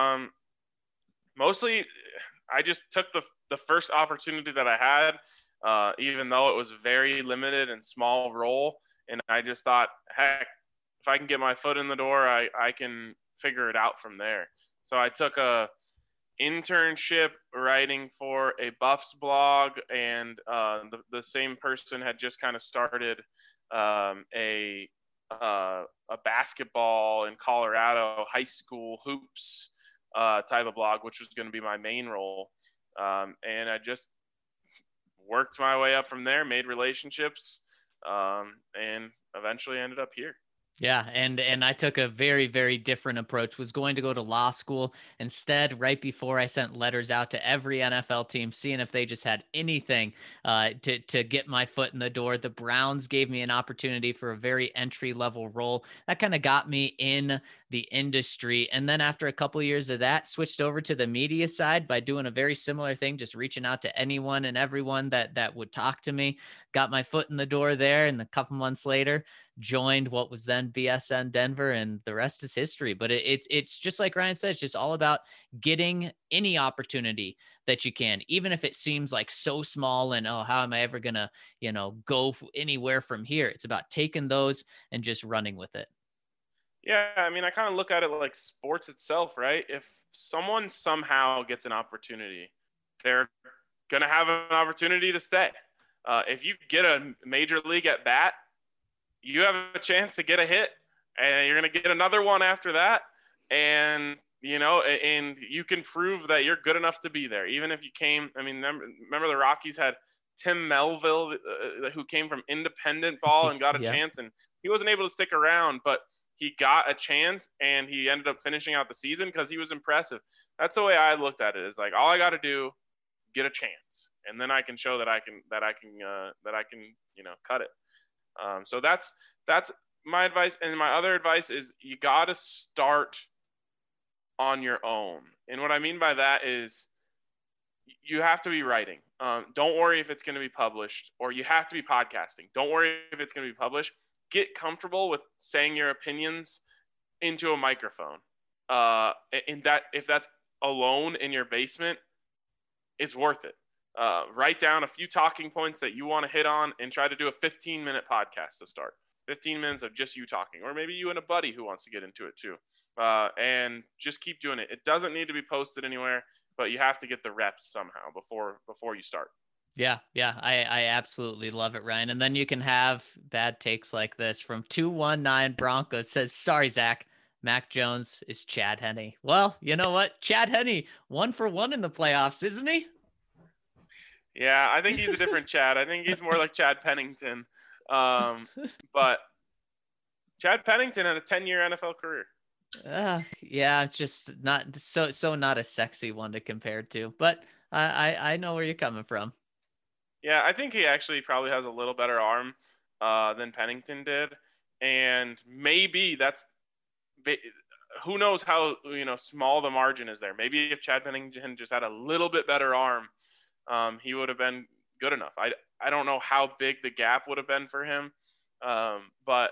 Mostly, I just took the first opportunity that I had, even though it was very limited and small role. And I just thought, heck, if I can get my foot in the door, I can figure it out from there. So I took a internship writing for a Buffs blog, and the same person had just kind of started a basketball in Colorado high school hoops type of blog, which was going to be my main role. And I just worked my way up from there, made relationships, and eventually ended up here. Yeah. And I took a very, very different approach, was going to go to law school. Instead, right before I sent letters out to every NFL team, seeing if they just had anything to get my foot in the door. The Browns gave me an opportunity for a very entry level role. That kind of got me in the industry. And then after a couple of years of that, switched over to the media side by doing a very similar thing, just reaching out to anyone and everyone that would talk to me. Got my foot in the door there, and a couple months later, joined what was then BSN Denver, and the rest is history. But it's just like Ryan says, just all about getting any opportunity that you can, even if it seems like so small and, oh, how am I ever going to, go anywhere from here? It's about taking those and just running with it. Yeah. I mean, I kind of look at it like sports itself, right? If someone somehow gets an opportunity, they're going to have an opportunity to stay. If you get a major league at bat, you have a chance to get a hit, and you're going to get another one after that. And, and you can prove that you're good enough to be there. Even if you came, I mean, remember the Rockies had Tim Melville, who came from independent ball and got a chance, and he wasn't able to stick around, but he got a chance and he ended up finishing out the season because he was impressive. That's the way I looked at it. Is like, all I got to do is get a chance, and then I can show that I can cut it. So that's my advice. And my other advice is you got to start on your own. And what I mean by that is you have to be writing. Don't worry if it's going to be published, or you have to be podcasting. Don't worry if it's going to be published. Get comfortable with saying your opinions into a microphone. And that, if that's alone in your basement, it's worth it. Write down a few talking points that you want to hit on and try to do a 15-minute podcast to start. 15 minutes of just you talking, or maybe you and a buddy who wants to get into it too. And just keep doing it. It doesn't need to be posted anywhere, but you have to get the reps somehow before you start. Yeah. I absolutely love it, Ryan. And then you can have bad takes like this from 219 Broncos. Says, sorry, Zach. Mac Jones is Chad Henne. Well, you know what? Chad Henne, 1-for-1 in the playoffs, isn't he? Yeah, I think he's a different Chad. I think he's more like Chad Pennington. But Chad Pennington had a 10-year NFL career. Yeah, just not so not a sexy one to compare to. But I know where you're coming from. Yeah, I think he actually probably has a little better arm than Pennington did. And maybe that's – who knows how small the margin is there. Maybe if Chad Pennington just had a little bit better arm, he would have been good enough. I don't know how big the gap would have been for him, but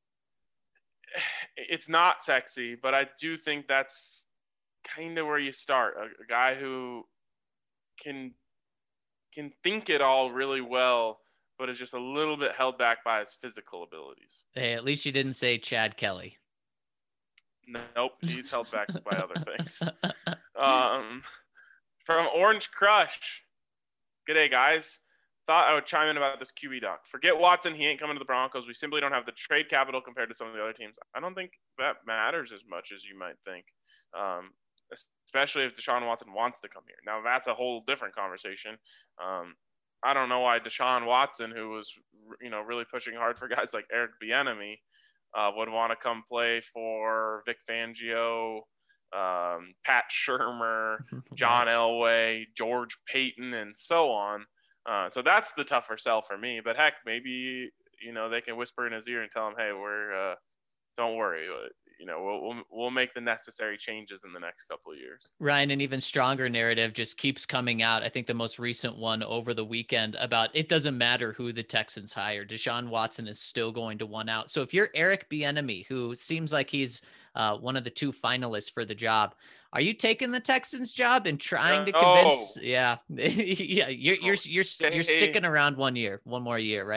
it's not sexy. But I do think that's kind of where you start. A guy who can think it all really well, but is just a little bit held back by his physical abilities. Hey, at least you didn't say Chad Kelly. Nope, he's held back by other things. From Orange Crush. G'day, guys. Thought I would chime in about this QB doc. Forget Watson. He ain't coming to the Broncos. We simply don't have the trade capital compared to some of the other teams. I don't think that matters as much as you might think, especially if Deshaun Watson wants to come here. Now, that's a whole different conversation. I don't know why Deshaun Watson, who was really pushing hard for guys like Eric Bieniemy, would want to come play for Vic Fangio, Pat Shurmur, John Elway, George Payton, and so on. So that's the tougher sell for me. But heck, maybe they can whisper in his ear and tell him, "Hey, don't worry. We'll make the necessary changes in the next couple of years." Ryan, an even stronger narrative just keeps coming out. I think the most recent one over the weekend about it doesn't matter who the Texans hire. Deshaun Watson is still going to one out. So if you're Eric Bieniemy, who seems like he's one of the two finalists for the job, are you taking the Texans job and trying to convince? Yeah, yeah. You're sticking around one more year, right?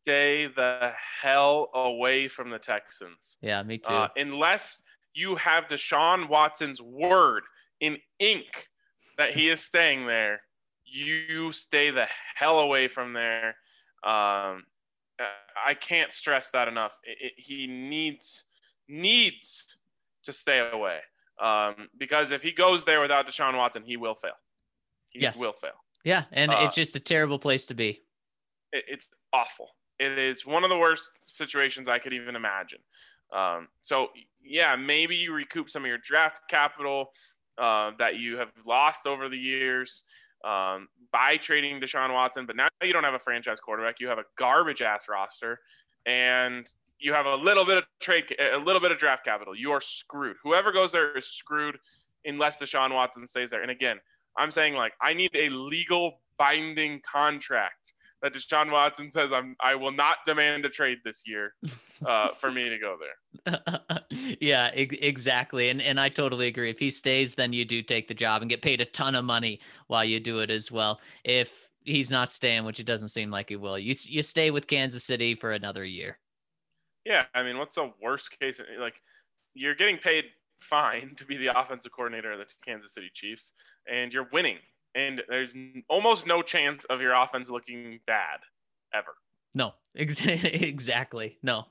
stay the hell away from the Texans. Yeah, me too. Unless you have Deshaun Watson's word in ink that he is staying there, you stay the hell away from there. I can't stress that enough. He needs to stay away. Because if he goes there without Deshaun Watson, he will fail. He will fail. Yeah, and it's just a terrible place to be. It's awful. It is one of the worst situations I could even imagine. So, yeah, maybe you recoup some of your draft capital that you have lost over the years by trading Deshaun Watson, but now you don't have a franchise quarterback. You have a garbage-ass roster, and you have a little bit of draft capital. You are screwed. Whoever goes there is screwed unless Deshaun Watson stays there. And again, I'm saying, like, I need a legal binding contract that Deshaun Watson says I will not demand a trade this year for me to go there. Yeah, exactly. And I totally agree. If he stays, then you do take the job and get paid a ton of money while you do it as well. If he's not staying, which it doesn't seem like he will, you stay with Kansas City for another year. Yeah, I mean, what's the worst case? Like, you're getting paid fine to be the offensive coordinator of the Kansas City Chiefs, and you're winning. And there's almost no chance of your offense looking bad ever. No, exactly. No.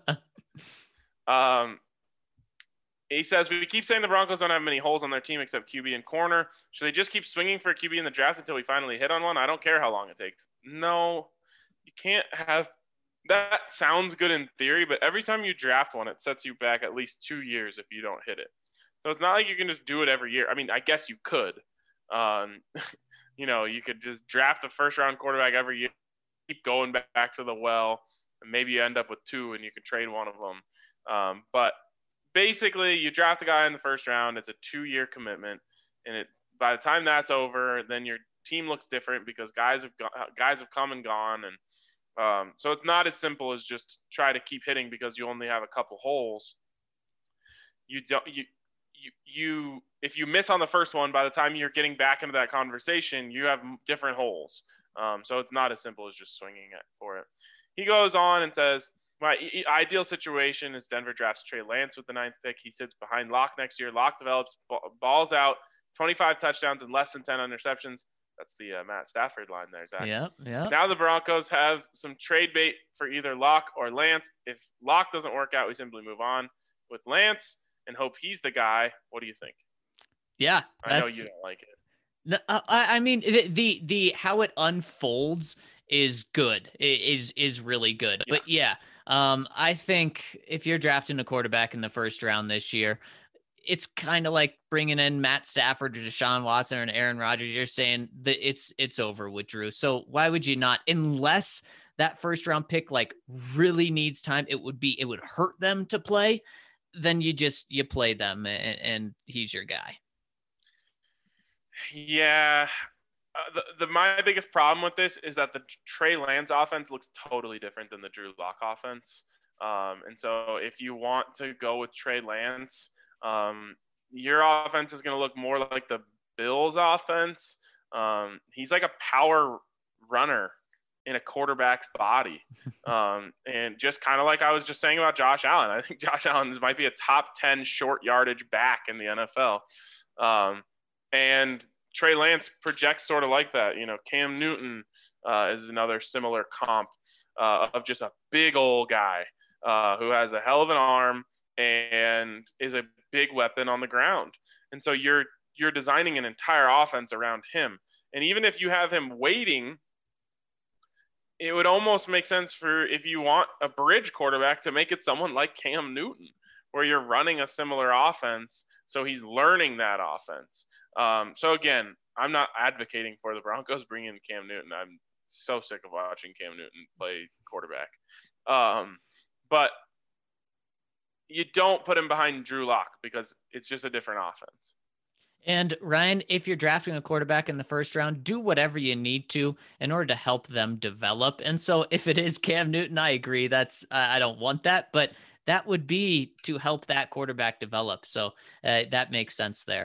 He says, we keep saying the Broncos don't have many holes on their team except QB and corner. Should they just keep swinging for a QB in the draft until we finally hit on one? I don't care how long it takes. No, you can't have – that sounds good in theory, but every time you draft one, it sets you back at least 2 years if you don't hit it. So it's not like you can just do it every year. I mean, I guess you could. You could just draft a first-round quarterback every year, keep going back to the well, and maybe you end up with 2 and you can trade one of them. But basically, you draft a guy in the first round. It's a 2-year commitment, and by the time that's over, then your team looks different because guys have come and gone, and so it's not as simple as just try to keep hitting because you only have a couple holes. If you miss on the first one, by the time you're getting back into that conversation, you have different holes. So it's not as simple as just swinging it for it. He goes on and says, my ideal situation is Denver drafts Trey Lance with the 9th pick. He sits behind Locke next year. Locke develops, balls out, 25 touchdowns and less than 10 interceptions. That's the Matt Stafford line there, Zach. Yeah. Now the Broncos have some trade bait for either Locke or Lance. If Locke doesn't work out, we simply move on with Lance and hope he's the guy. What do you think? Yeah. I know you don't like it. No, I mean, the how it unfolds is good. It is really good. Yeah. But yeah, I think if you're drafting a quarterback in the first round this year, it's kind of like bringing in Matt Stafford or Deshaun Watson or Aaron Rodgers. You're saying that it's over with Drew. So why would you not, unless that first round pick like really needs time, it would hurt them to play. Then you play them and he's your guy. Yeah. My biggest problem with this is that the Trey Lance offense looks totally different than the Drew Lock offense. And so if you want to go with Trey Lance, your offense is going to look more like the Bills offense. He's like a power runner in a quarterback's body. And just kind of like I was just saying about Josh Allen, I think Josh Allen might be a top 10 short yardage back in the NFL. And Trey Lance projects sort of like that. Cam Newton is another similar comp of just a big old guy who has a hell of an arm and is a big weapon on the ground. And so you're designing an entire offense around him. And even if you have him waiting, it would almost make sense for if you want a bridge quarterback to make it someone like Cam Newton, where you're running a similar offense. So he's learning that offense. So again, I'm not advocating for the Broncos bringing in Cam Newton. I'm so sick of watching Cam Newton play quarterback. But you don't put him behind Drew Lock because it's just a different offense. And Ryan, if you're drafting a quarterback in the first round, do whatever you need to in order to help them develop. And so if it is Cam Newton, I agree. I don't want that, but that would be to help that quarterback develop. So that makes sense there.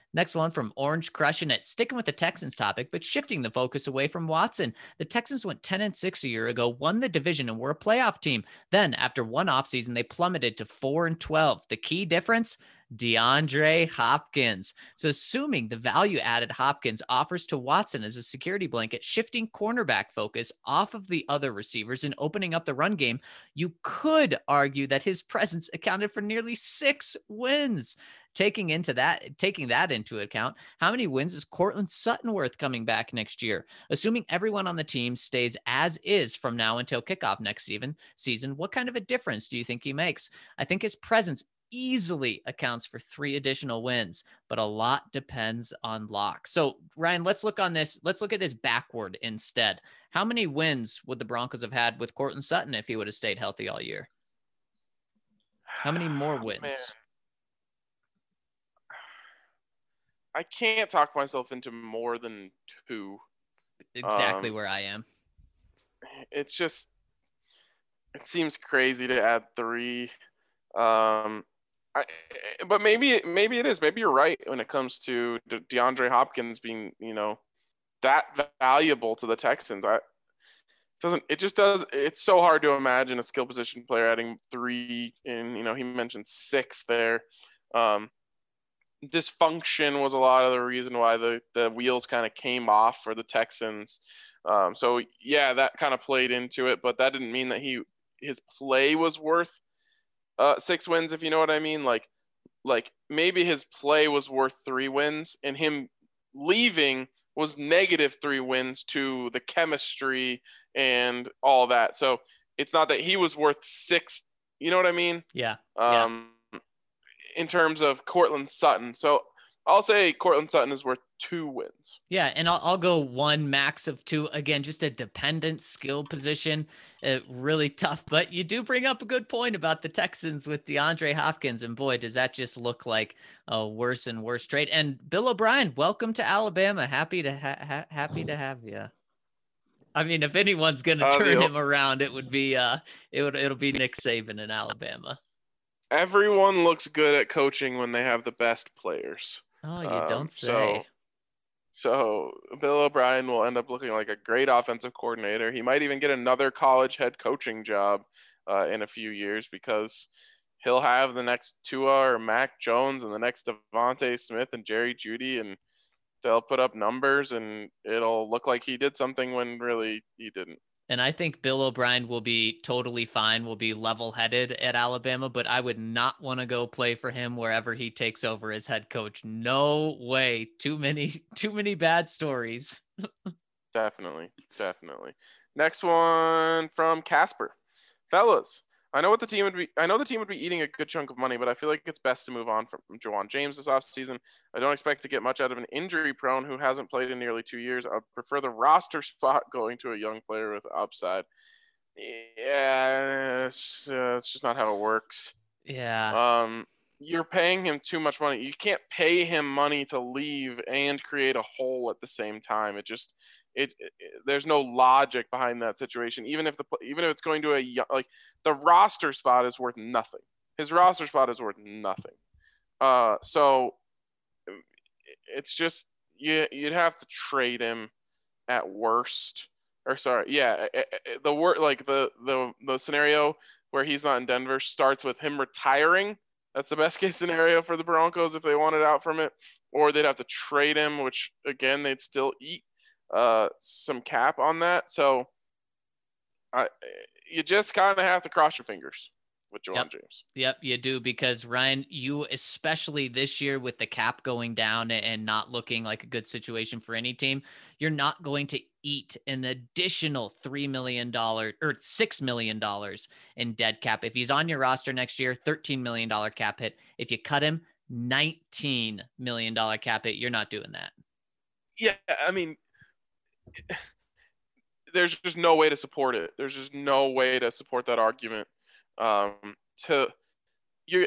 Next one from Orange Crushing It, sticking with the Texans topic, but shifting the focus away from Watson. The Texans went 10-6 a year ago, won the division, and were a playoff team. Then, after one offseason, they plummeted to 4-12. The key difference? DeAndre Hopkins. So assuming the value added Hopkins offers to Watson as a security blanket, shifting cornerback focus off of the other receivers and opening up the run game, you could argue that his presence accounted for nearly 6 wins. Taking that into account, how many wins is Courtland Sutton worth coming back next year? Assuming everyone on the team stays as is from now until kickoff next season, what kind of a difference do you think he makes? I think his presence easily accounts for 3 additional wins, but a lot depends on Locke. So Ryan, let's look at this backward instead. How many wins would the Broncos have had with Courtland Sutton if he would have stayed healthy all year? How many more wins? Man. I can't talk myself into more than 2. Exactly where I am. It seems crazy to add 3. But maybe it is. Maybe you're right when it comes to DeAndre Hopkins being, that valuable to the Texans. It's so hard to imagine a skill position player adding 3 in, he mentioned 6 there. Dysfunction was a lot of the reason why the wheels kind of came off for the Texans. So yeah, that kind of played into it, but that didn't mean that his play was worth 6 wins, if you know what I mean. Like maybe his play was worth 3 wins and him leaving was -3 wins to the chemistry and all that. So it's not that he was worth 6, you know what I mean? Yeah. In terms of Courtland Sutton. So I'll say Courtland Sutton is worth 2 wins. Yeah, and I'll go 1 max of 2. Again, just a dependent skill position. Really tough. But you do bring up a good point about the Texans with DeAndre Hopkins. And boy, does that just look like a worse and worse trade. And Bill O'Brien, welcome to Alabama. Happy to have you. I mean, if anyone's going to turn him around, it would be it'll be Nick Saban in Alabama. Everyone looks good at coaching when they have the best players. Oh, you don't say. So Bill O'Brien will end up looking like a great offensive coordinator. He might even get another college head coaching job in a few years because he'll have the next Tua or Mac Jones and the next Devontae Smith and Jerry Jeudy, and they'll put up numbers and it'll look like he did something when really he didn't. And I think Bill O'Brien will be totally fine, will be level-headed at Alabama, but I would not want to go play for him wherever he takes over as head coach. No way. Too many bad stories. Definitely. Next one from Casper. Fellas, I know the team would be eating a good chunk of money, but I feel like it's best to move on from Juwan James this offseason. I don't expect to get much out of an injury-prone who hasn't played in nearly 2 years. I prefer the roster spot going to a young player with upside. Yeah, it's just not how it works. Yeah. You're paying him too much money. You can't pay him money to leave and create a hole at the same time. There's no logic behind that situation. Even if it's going to the roster spot is worth nothing. His roster spot is worth nothing. So it's just you'd have to trade him at worst. Or sorry, yeah, the scenario where he's not in Denver starts with him retiring. That's the best case scenario for the Broncos if they wanted out from it, or they'd have to trade him, which again they'd still eat some cap on that. So you just kind of have to cross your fingers with Juwan James. Yep, you do, because Ryan, you especially this year with the cap going down and not looking like a good situation for any team, you're not going to eat an additional $3 million or $6 million in dead cap. If he's on your roster next year, $13 million cap hit. If you cut him, $19 million cap hit. You're not doing that. Yeah, I mean, there's just no way to support it. There's just no way to support that argument. You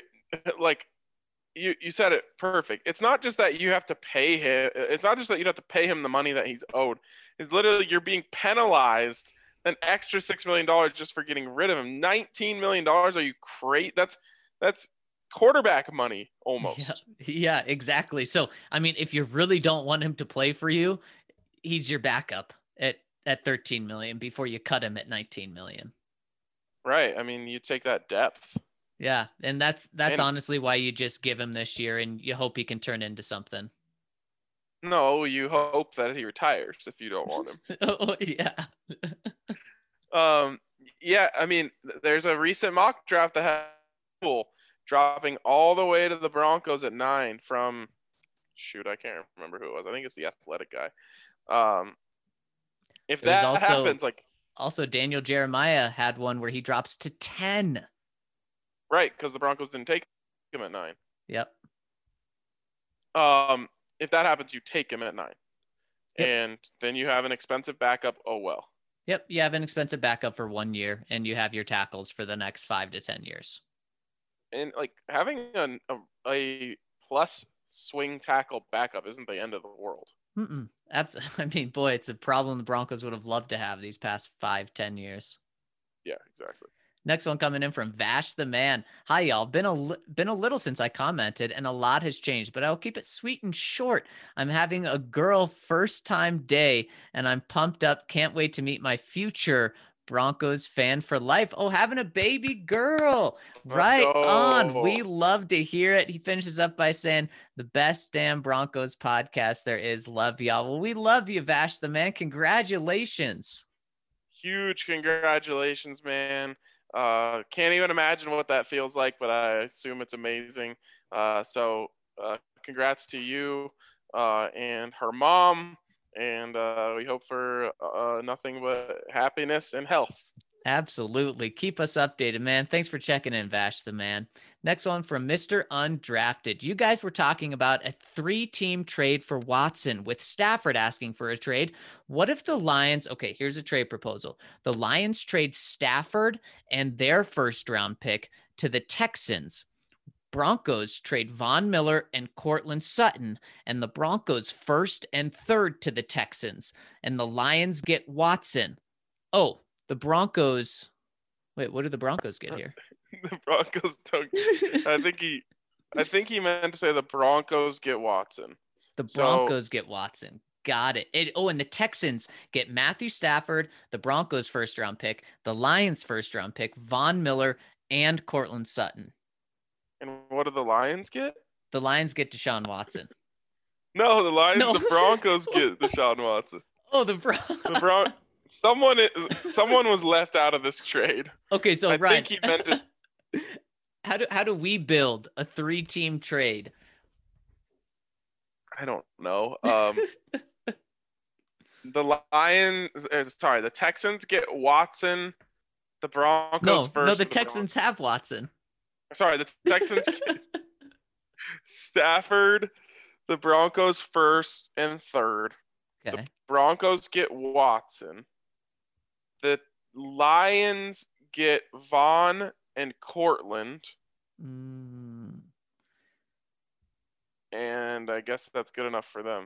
said it perfect. It's not just that you have to pay him. It's not just that you have to pay him the money that he's owed. It's literally you're being penalized an extra $6 million just for getting rid of him. $19 million. Are you crazy? That's quarterback money almost. Yeah, exactly. So, I mean, if you really don't want him to play for you, he's your backup at 13 million before you cut him at 19 million. Right. I mean, you take that depth. Yeah, and that's honestly why you just give him this year and you hope he can turn into something. No, you hope that he retires if you don't want him. Oh, yeah. Yeah, I mean, there's a recent mock draft that had people dropping all the way to the Broncos at 9 from I can't remember who it was. I think it's the Athletic guy. If that happens, like also Daniel Jeremiah had one where he drops to 10. Right, because the Broncos didn't take him at 9. Yep. If that happens, you take him at 9. Yep. And then you have an expensive backup. Oh, well. Yep. You have an expensive backup for 1 year, and you have your tackles for the next 5 to 10 years. And, like, having a plus swing tackle backup isn't the end of the world. I mean, boy, it's a problem the Broncos would have loved to have these past 5-10 years. Yeah, exactly. Next one coming in from Vash the Man. Hi, y'all. Been a little since I commented, and a lot has changed, but I'll keep it sweet and short. I'm having a girl first time day, and I'm pumped up. Can't wait to meet my future Broncos fan for life. Oh, having a baby girl. Right on. We love to hear it. He finishes up by saying, the best damn Broncos podcast there is. Love y'all. Well, we love you, Vash the Man. Congratulations. Huge congratulations, man. Can't even imagine what that feels like, but I assume it's amazing. So congrats to you and her mom, and we hope for nothing but happiness and health. Absolutely. Keep us updated, man. Thanks for checking in, Vash the Man. Next one from Mr. Undrafted. You guys were talking about a 3-team trade for Watson with Stafford asking for a trade. What if the Lions, okay, here's a trade proposal. The Lions trade Stafford and their first round pick to the Texans. Broncos trade Von Miller and Courtland Sutton, and the Broncos first and third to the Texans, and the Lions get Watson. Oh, the Broncos. Wait, what do the Broncos get here? The Broncos don't. I think he meant to say the Broncos get Watson. The Broncos get Watson. Got it. And the Texans get Matthew Stafford, the Broncos first round pick, the Lions first round pick, Von Miller, and Courtland Sutton. And what do the Lions get? The Lions get Deshaun Watson. No, the Broncos get Deshaun Watson. Oh, Someone was left out of this trade. Okay, so I Ryan, think he meant to. How do we build a 3-team trade? I don't know. The Texans get Watson. The Broncos first. No, the Texans have Watson. Sorry, the Texans get Stafford. The Broncos first and third. Okay. The Broncos get Watson. The Lions get Vaughn and Courtland. And I guess that's good enough for them.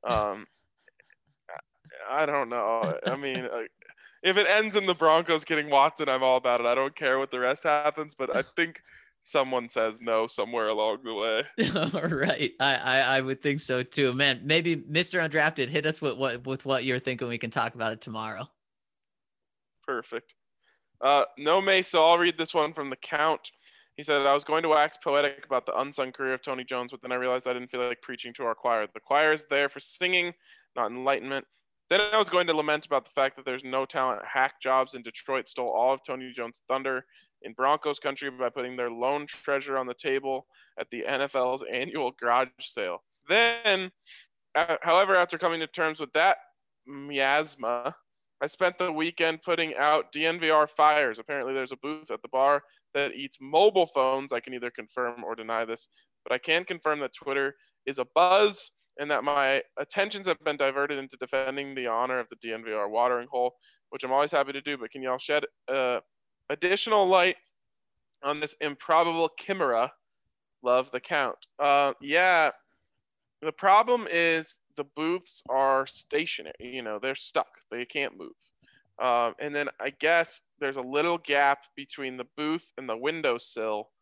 I don't know. I mean, if it ends in the Broncos getting Watson, I'm all about it. I don't care what the rest happens, but I think someone says no somewhere along the way. All right. I would think so too. Man, maybe Mr. Undrafted, hit us with what you're thinking. We can talk about it tomorrow. Perfect. No Mesa, so I'll read this one from the Count. He said, I was going to wax poetic about the unsung career of Tony Jones, but then I realized I didn't feel like preaching to our choir. The choir is there for singing, not enlightenment. Then I was going to lament about the fact that there's no talent. Hack jobs in Detroit stole all of Tony Jones' thunder in Broncos country by putting their lone treasure on the table at the NFL's annual garage sale. Then, however, after coming to terms with that miasma, I spent the weekend putting out DNVR fires. Apparently there's a booth at the bar that eats mobile phones. I can either confirm or deny this, but I can confirm that Twitter is abuzz and that my attentions have been diverted into defending the honor of the DNVR watering hole, which I'm always happy to do. But can y'all shed additional light on this improbable chimera? Love the Count. Yeah, the problem is the booths are stationary. You know, they're stuck. They can't move. And then I guess there's a little gap between the booth and the windowsill.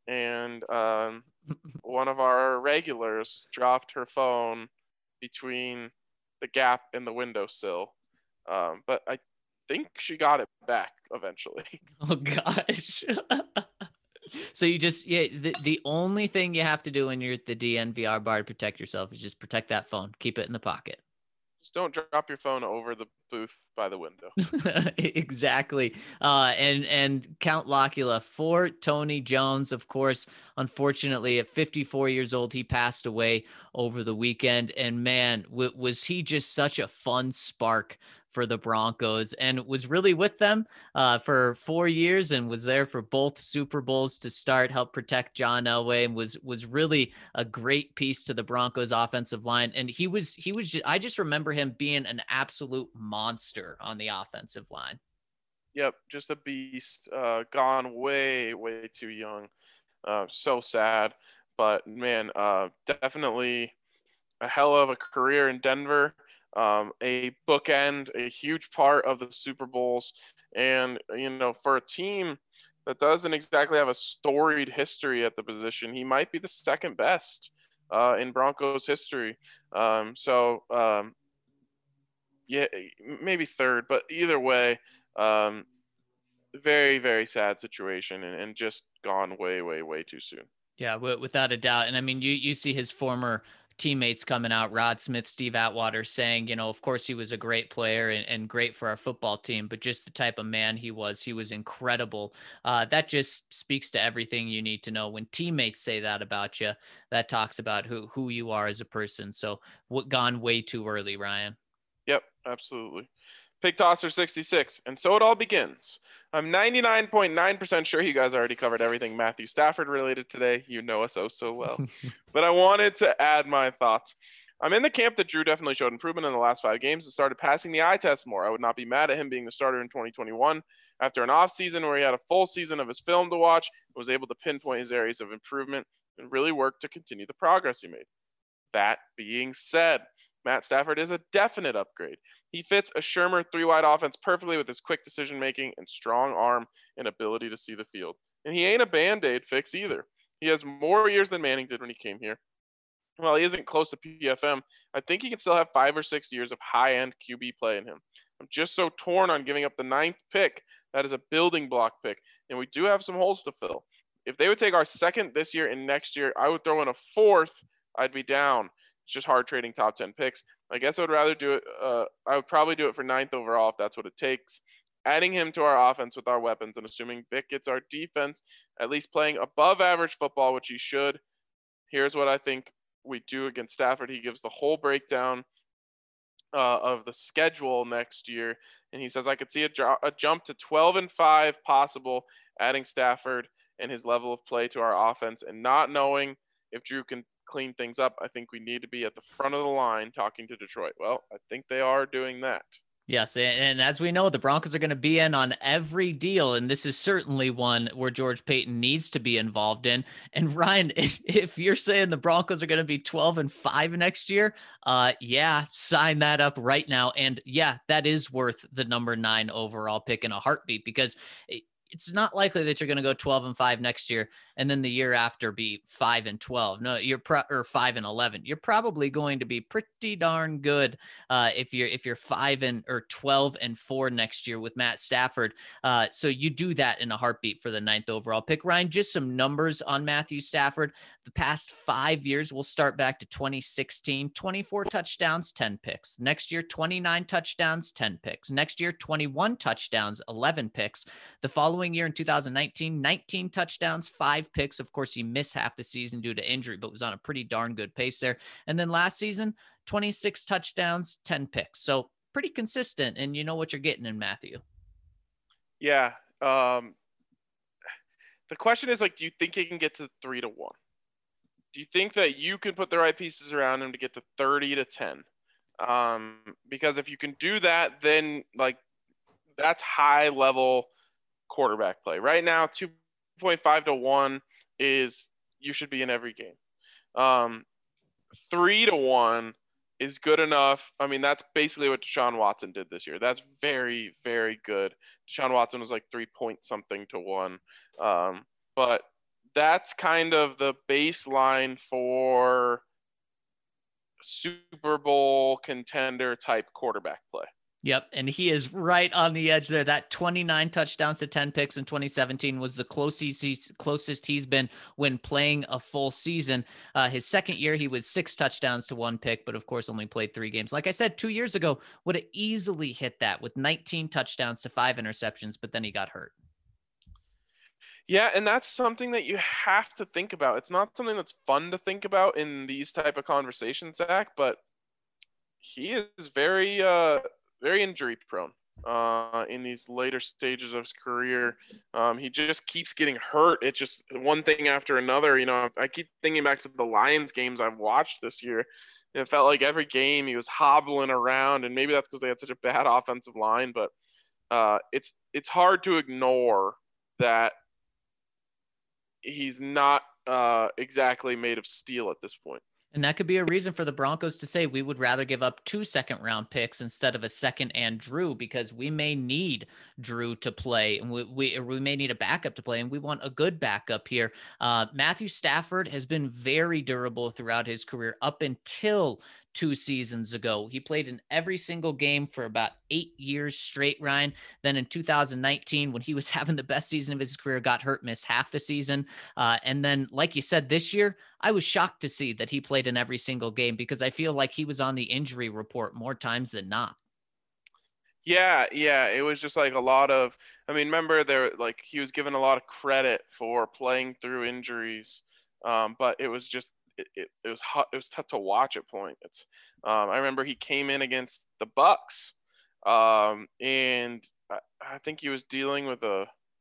and one of our regulars dropped her phone between the gap and the windowsill. But I think she got it back eventually. Oh gosh. So you just the only thing you have to do when you're at the DNVR bar to protect yourself is just protect that phone. Keep it in the pocket. Just don't drop your phone over the booth by the window. Exactly. And Count Locula for Tony Jones, of course, unfortunately at 54 years old, he passed away over the weekend. And man, was he just such a fun spark for the Broncos, and was really with them for 4 years and was there for both Super Bowls to start, help protect John Elway, and was really a great piece to the Broncos offensive line. And he was just, I just remember him being an absolute monster on the offensive line. Yep, just a beast. Gone way too young. So sad, but man, definitely a hell of a career in Denver. A bookend, a huge part of the Super Bowls. And, for a team that doesn't exactly have a storied history at the position, he might be the second best in Broncos history. Yeah, maybe third, but either way, very, very sad situation and just gone way too soon. Yeah, without a doubt. And I mean, you see his former teammates coming out, Rod Smith, Steve Atwater, saying, of course he was a great player and great for our football team, but just the type of man he was incredible. That just speaks to everything you need to know. When teammates say that about you, that talks about who you are as a person. So gone way too early, Ryan. Yep, absolutely. Pig Tosser 66. And so it all begins. I'm 99.9% sure you guys already covered everything Matthew Stafford related today. You know us so well. But I wanted to add my thoughts. I'm in the camp that Drew definitely showed improvement in the last 5 games and started passing the eye test more. I would not be mad at him being the starter in 2021 after an offseason where he had a full season of his film to watch and was able to pinpoint his areas of improvement and really work to continue the progress he made. That being said, Matt Stafford is a definite upgrade. He fits a Shurmur 3-wide offense perfectly with his quick decision-making and strong arm and ability to see the field. And he ain't a Band-Aid fix either. He has more years than Manning did when he came here. While he isn't close to PFM, I think he can still have 5 or 6 years of high-end QB play in him. I'm just so torn on giving up the 9th pick. That is a building block pick, and we do have some holes to fill. If they would take our 2nd this year and next year, I would throw in a 4th. I'd be down. It's just hard trading top 10 picks. I guess I would rather do it. I would probably do it for 9th overall if that's what it takes. Adding him to our offense with our weapons and assuming Vic gets our defense at least playing above average football, which he should. Here's what I think we do against Stafford. He gives the whole breakdown of the schedule next year. And he says, I could see a jump to 12-5 possible, adding Stafford and his level of play to our offense and not knowing if Drew can clean things up. I think we need to be at the front of the line talking to Detroit. Well, I think they are doing that. Yes, and as we know, the Broncos are going to be in on every deal, and this is certainly one where George Paton needs to be involved in. And Ryan, if you're saying the Broncos are going to be 12-5 next year, yeah, sign that up right now. And yeah, that is worth the number 9 overall pick in a heartbeat, because it's not likely that you're going to go 12-5 next year and then the year after be 5-12. No, you're or 5-11. You're probably going to be pretty darn good if you're 12-4 next year with Matt Stafford. So you do that in a heartbeat for the 9th overall pick. Ryan, just some numbers on Matthew Stafford. The past 5 years, we'll start back to 2016, 24 touchdowns, 10 picks. Next year, 29 touchdowns, 10 picks. Next year, 21 touchdowns, 11 picks. The following year in 2019, 19 touchdowns, 5 picks. Of course, he missed half the season due to injury, but was on a pretty darn good pace there. And then last season, 26 touchdowns, 10 picks. So pretty consistent, and you know what you're getting in Matthew. Yeah. The question is, do you think he can get to 3-1? Do you think that you can put the right pieces around him to get to 30-10? Because if you can do that, then that's high level quarterback play. Right now, 2.5-1 is you should be in every game. 3-1 is good enough. I mean, that's basically what Deshaun Watson did this year. That's very, very good. Deshaun Watson was 3 point something to 1. But that's kind of the baseline for Super Bowl contender type quarterback play. Yep, and he is right on the edge there. That 29 touchdowns to 10 picks in 2017 was the closest he's been when playing a full season. His second year, he was 6 touchdowns to 1 pick, but of course only played 3 games. Like I said, 2 years ago, would have easily hit that with 19 touchdowns to 5 interceptions, but then he got hurt. Yeah, and that's something that you have to think about. It's not something that's fun to think about in these type of conversations, Zach, but he is very injury prone in these later stages of his career. He just keeps getting hurt. It's just one thing after another. I keep thinking back to the Lions games I've watched this year. It felt like every game he was hobbling around, and maybe that's because they had such a bad offensive line, but it's hard to ignore that he's not exactly made of steel at this point. And that could be a reason for the Broncos to say we would rather give up 2 second-round picks instead of a second and Drew, because we may need Drew to play, and we may need a backup to play, and we want a good backup here. Matthew Stafford has been very durable throughout his career up until 2 seasons ago. He played in every single game for about 8 years straight, Ryan. Then in 2019, when he was having the best season of his career, got hurt, missed half the season. And then, like you said, this year, I was shocked to see that he played in every single game because I feel like he was on the injury report more times than not. Yeah, it was just like a lot of, remember he was given a lot of credit for playing through injuries. But it was just, it was hot. It was tough to watch at points. I remember he came in against the Bucks, and I think he was dealing with a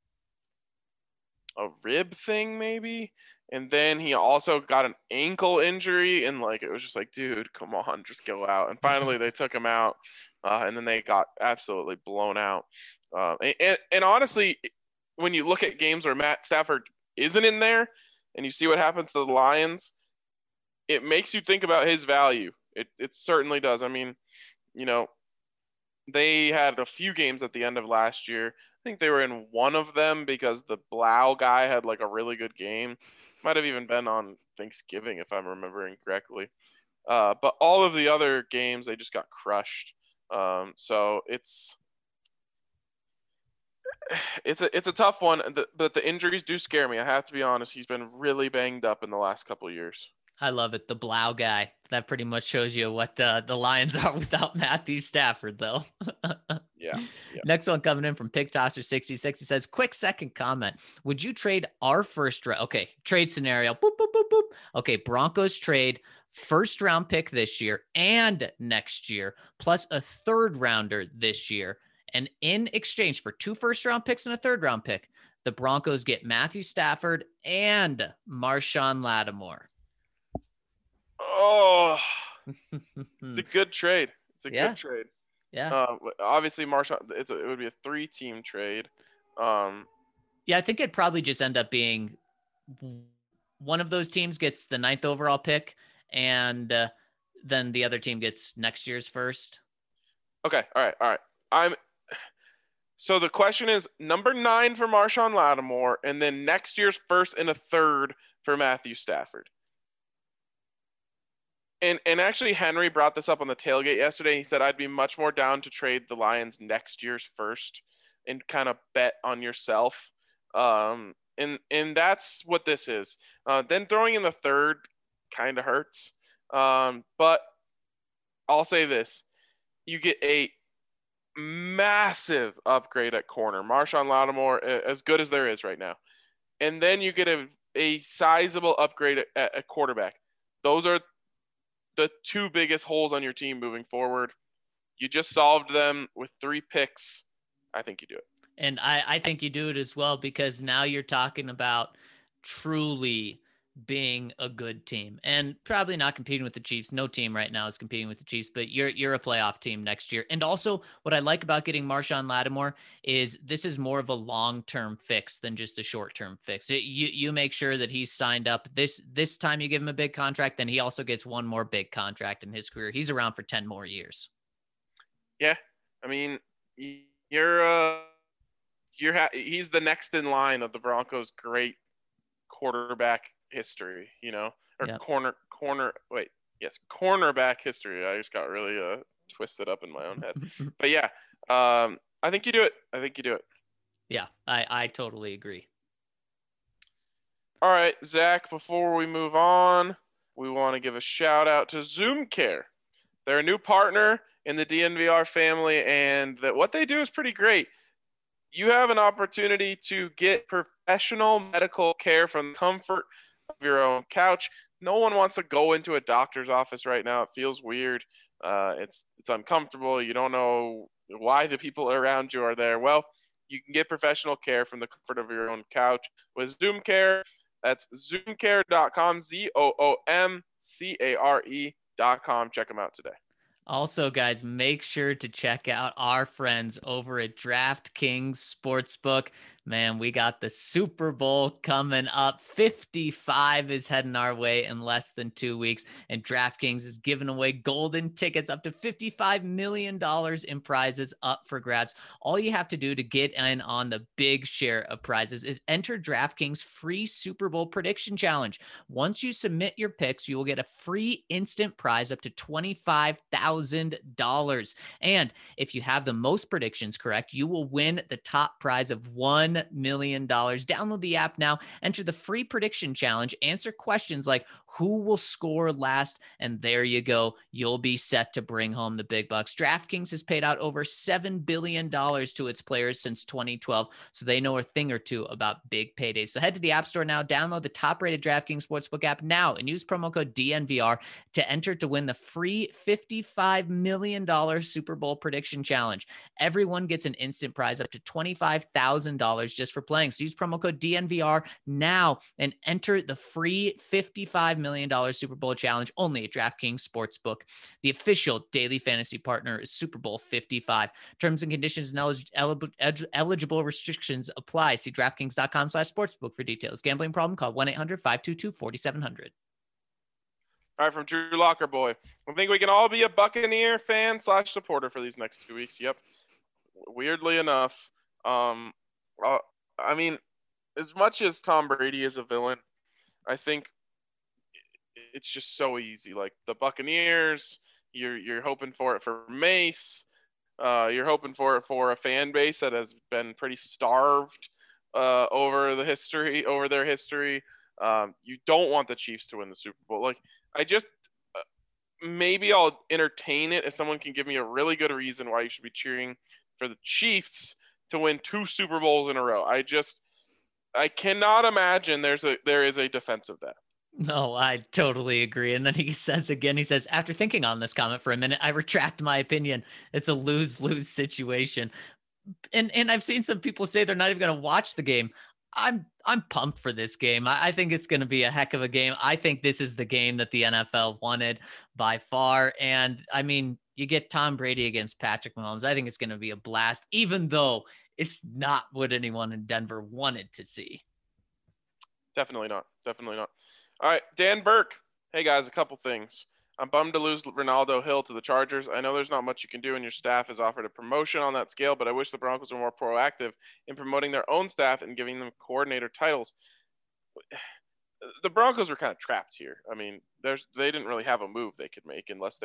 rib thing maybe, and then he also got an ankle injury, and it was just like, dude, come on, just go out. And finally they took him out, and then they got absolutely blown out. And honestly, when you look at games where Matt Stafford isn't in there, and you see what happens to the Lions, it makes you think about his value. It certainly does. They had a few games at the end of last year. I think they were in one of them because the Blau guy had a really good game. Might have even been on Thanksgiving if I'm remembering correctly. But all of the other games, they just got crushed. So it's a tough one, but the injuries do scare me. I have to be honest. He's been really banged up in the last couple of years. I love it. The Blau guy. That pretty much shows you what the Lions are without Matthew Stafford, though. Yeah. Next one coming in from Pig Tosser 66. He says, quick second comment. Would you trade our first round? Okay, trade scenario. Boop, boop, boop, boop. Okay, Broncos trade first round pick this year and next year, plus a third rounder this year. And in exchange for 2 first round picks and a third round pick, the Broncos get Matthew Stafford and Marshawn Lattimore. Oh, it's a good trade. Good trade. Yeah. Obviously, Marshawn. It would be a 3-team trade. Yeah, I think it'd probably just end up being one of those teams gets the 9th overall pick, and then the other team gets next year's first. Okay. All right. So the question is number 9 for Marshawn Lattimore, and then next year's first and a third for Matthew Stafford. And actually, Henry brought this up on the tailgate yesterday. He said, I'd be much more down to trade the Lions next year's first and kind of bet on yourself. And that's what this is. Then throwing in the third kind of hurts. But I'll say this. You get a massive upgrade at corner. Marshawn Lattimore, as good as there is right now. And then you get a sizable upgrade at quarterback. Those are the 2 biggest holes on your team moving forward. You just solved them with 3 picks. I think you do it. And I think you do it as well, because now you're talking about truly being a good team and probably not competing with the Chiefs. No team right now is competing with the Chiefs, but you're a playoff team next year. And also what I like about getting Marshawn Lattimore is this is more of a long-term fix than just a short-term fix. You make sure that he's signed up this time. You give him a big contract, then he also gets one more big contract in his career. He's around for 10 more years. Yeah. He's the next in line of the Broncos' great quarterback history, or Yep. cornerback history. I just got really twisted up in my own head. But yeah, I think you do it. Yeah, I totally agree. All right, Zach, before we move on, we want to give a shout out to Zoom Care. They're a new partner in the DNVR family, and what they do is pretty great. You have an opportunity to get professional medical care from the comfort of your own couch. No one wants to go into a doctor's office right now. It feels weird. It's uncomfortable. You don't know why the people around you are there. Well, you can get professional care from the comfort of your own couch with Zoom Care. That's zoomcare.com, ZOOMCARE.com. Check them out today. Also, guys, make sure to check out our friends over at DraftKings Sportsbook. Man, we got the Super Bowl coming up. 55 is heading our way in less than 2 weeks, and DraftKings is giving away golden tickets up to $55 million in prizes up for grabs. All you have to do to get in on the big share of prizes is enter DraftKings free Super Bowl prediction challenge. Once you submit your picks, you will get a free instant prize up to $25,000. And if you have the most predictions correct, you will win the top prize of $1 million. Download the app now, enter the free prediction challenge, answer questions like who will score last, and there you go. You'll be set to bring home the big bucks. DraftKings has paid out over $7 billion to its players since 2012, so they know a thing or two about big paydays. So head to the App Store now, download the top-rated DraftKings Sportsbook app now, and use promo code DNVR to enter to win the free $55 million Super Bowl prediction challenge. Everyone gets an instant prize up to $25,000 just for playing. So use promo code DNVR now and enter the free $55 million Super Bowl challenge only at DraftKings Sportsbook, the official daily fantasy partner is Super Bowl 55. Terms and conditions and eligible restrictions apply. See DraftKings.com/sportsbook for details. Gambling problem? Call 1-800-522-4700. All right, from Drew Locker Boy. I think we can all be a Buccaneer fan / supporter for these next 2 weeks. Yep. Weirdly enough, I mean, as much as Tom Brady is a villain, I think it's just so easy. Like the Buccaneers, you're hoping for it for Mace. You're hoping for it for a fan base that has been pretty starved over their history. You don't want the Chiefs to win the Super Bowl. Like I just maybe I'll entertain it if someone can give me a really good reason why you should be cheering for the Chiefs to win 2 Super Bowls in a row. I cannot imagine there is a defense of that. No, I totally agree. And then he says, after thinking on this comment for a minute, I retract my opinion. It's a lose-lose situation. And I've seen some people say they're not even going to watch the game. I'm pumped for this game. I think it's going to be a heck of a game. I think this is the game that the NFL wanted by far. And I mean, you get Tom Brady against Patrick Mahomes. I think it's going to be a blast, even though it's not what anyone in Denver wanted to see. Definitely not. All right, Dan Burke. Hey, guys, a couple things. I'm bummed to lose Ronaldo Hill to the Chargers. I know there's not much you can do, and your staff has offered a promotion on that scale, but I wish the Broncos were more proactive in promoting their own staff and giving them coordinator titles. The Broncos were kind of trapped here. I mean, they didn't really have a move they could make unless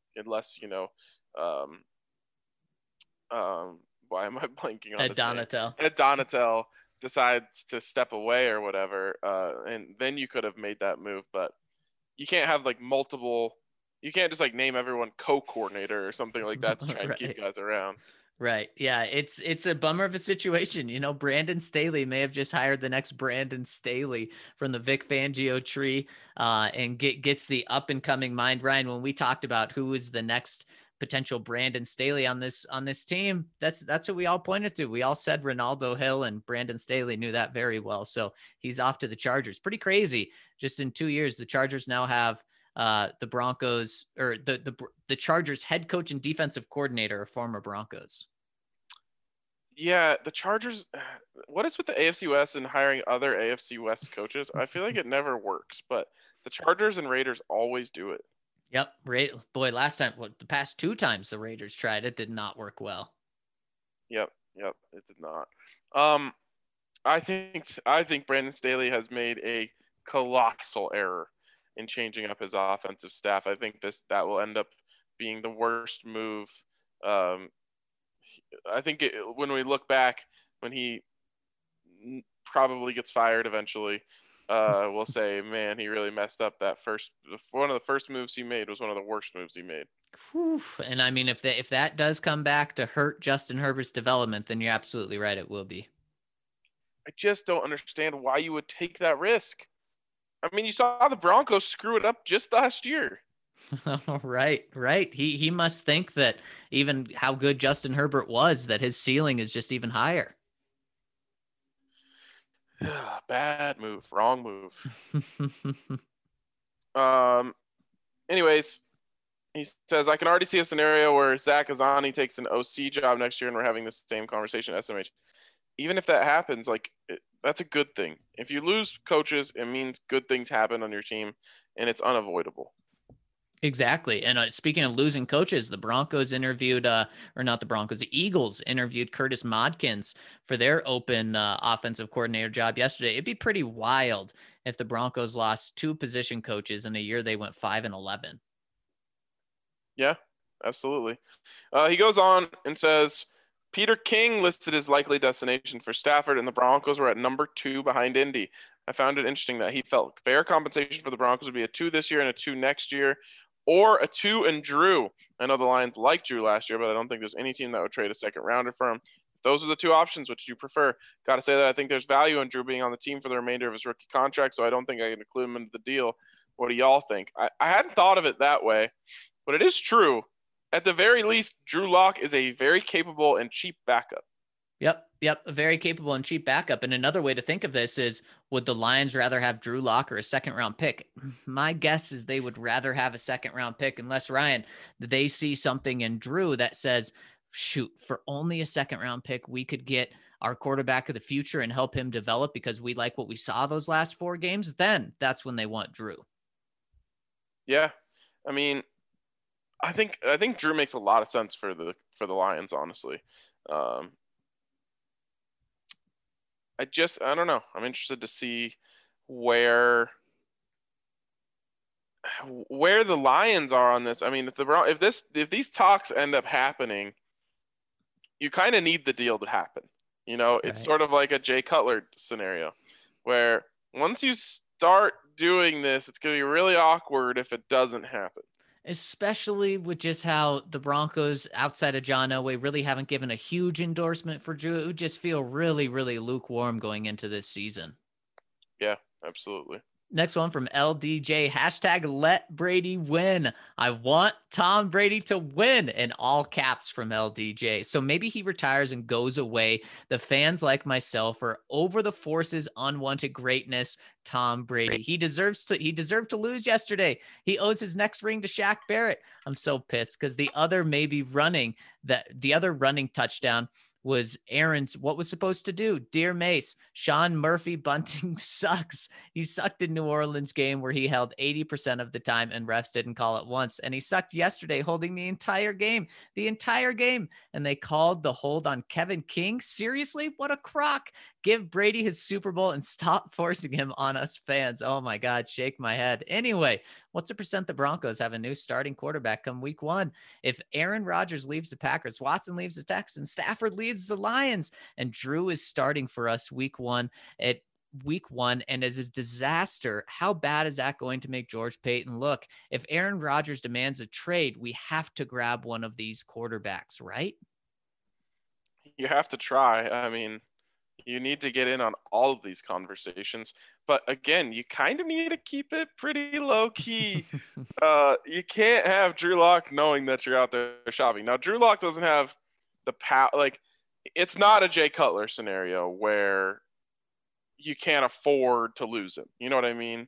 why am I blanking on Ed Donatel? Ed Donatel decides to step away or whatever, and then you could have made that move, but you can't have multiple. You can't just name everyone co-coordinator or something like that to try and keep guys around. Right. Yeah. It's a bummer of a situation. Brandon Staley may have just hired the next Brandon Staley from the Vic Fangio tree, and gets the up and coming mind. Ryan, when we talked about who is the next potential Brandon Staley on this team, that's what we all pointed to. We all said Ronaldo Hill, and Brandon Staley knew that very well. So he's off to the Chargers. Pretty crazy. Just in 2 years, the Chargers now have the Broncos, or the Chargers head coach and defensive coordinator are former Broncos. Yeah, the Chargers. What is with the AFC West and hiring other AFC West coaches? I feel like it never works, but the Chargers and Raiders always do it. Yep. Boy, last time, the past 2 times the Raiders tried it did not work well. Yep, it did not. I think Brandon Staley has made a colossal error in changing up his offensive staff. I think that will end up being the worst move. Um, I think when we look back, when he probably gets fired eventually, we'll say, man, he really messed up that first. One of the first moves he made was one of the worst moves he made. Whew. And I mean, if that does come back to hurt Justin Herbert's development, then you're absolutely right. It will be. I just don't understand why you would take that risk. I mean, you saw the Broncos screw it up just last year. Right. He must think that even how good Justin Herbert was, that his ceiling is just even higher. Bad move, wrong move. Anyways, he says, I can already see a scenario where Zach Azzanni takes an OC job next year and we're having the same conversation at SMH. Even if that happens, that's a good thing. If you lose coaches, it means good things happen on your team, and it's unavoidable. Exactly. And speaking of losing coaches, the Broncos interviewed, or not the Broncos, the Eagles interviewed Curtis Modkins for their open offensive coordinator job yesterday. It'd be pretty wild if the Broncos lost 2 position coaches in a year they went 5-11. Yeah, absolutely. He goes on and says, Peter King listed his likely destination for Stafford, and the Broncos were at number 2 behind Indy. I found it interesting that he felt fair compensation for the Broncos would be a 2 this year and a 2 next year, or a 2 and Drew. I know the Lions liked Drew last year, but I don't think there's any team that would trade a second rounder for him. If those are the 2 options, which do you prefer? Got to say that I think there's value in Drew being on the team for the remainder of his rookie contract, so I don't think I can include him into the deal. What do y'all think? I hadn't thought of it that way, but it is true. At the very least, Drew Lock is a very capable and cheap backup. Yep. A very capable and cheap backup. And another way to think of this is, would the Lions rather have Drew Lock or a second-round pick? My guess is they would rather have a second-round pick, unless, Ryan, they see something in Drew that says, shoot, for only a second-round pick, we could get our quarterback of the future and help him develop because we like what we saw those last 4 games. Then that's when they want Drew. Yeah. I mean, I think Drew makes a lot of sense for the Lions, honestly. I don't know. I'm interested to see where the Lions are on this. I mean, if these talks end up happening, you kind of need the deal to happen. You know, it's Right. sort of like a Jay Cutler scenario where once you start doing this, it's going to be really awkward if it doesn't happen. Especially with just how the Broncos, outside of John Elway, really haven't given a huge endorsement for Drew. It would just feel really, really lukewarm going into this season. Yeah, absolutely. Next one from LDJ, hashtag let Brady win. I want Tom Brady to win, in all caps from LDJ. So maybe he retires and goes away. The fans like myself are over the force's unwanted greatness. Tom Brady. He deserved to lose yesterday. He owes his next ring to Shaq Barrett. I'm so pissed because the other running touchdown was Aaron's, what was supposed to do. Dear Mace, Sean Murphy Bunting sucks. He sucked in New Orleans game where he held 80% of the time and refs didn't call it once. And he sucked yesterday holding the entire game. And they called the hold on Kevin King. Seriously? What a crock. Give Brady his Super Bowl and stop forcing him on us fans. Oh my God, shake my head. Anyway, what's the percent the Broncos have a new starting quarterback come week 1? If Aaron Rodgers leaves the Packers, Watson leaves the Texans, Stafford leaves the Lions, and Drew is starting for us week 1 and as a disaster, how bad is that going to make George Payton look? If Aaron Rodgers demands a trade, we have to grab one of these quarterbacks, right? You have to try. I mean, you need to get in on all of these conversations. But again, you kind of need to keep it pretty low key. You can't have Drew Lock knowing that you're out there shopping. Now, Drew Lock doesn't have the power. Like, it's not a Jay Cutler scenario where you can't afford to lose him. You know what I mean?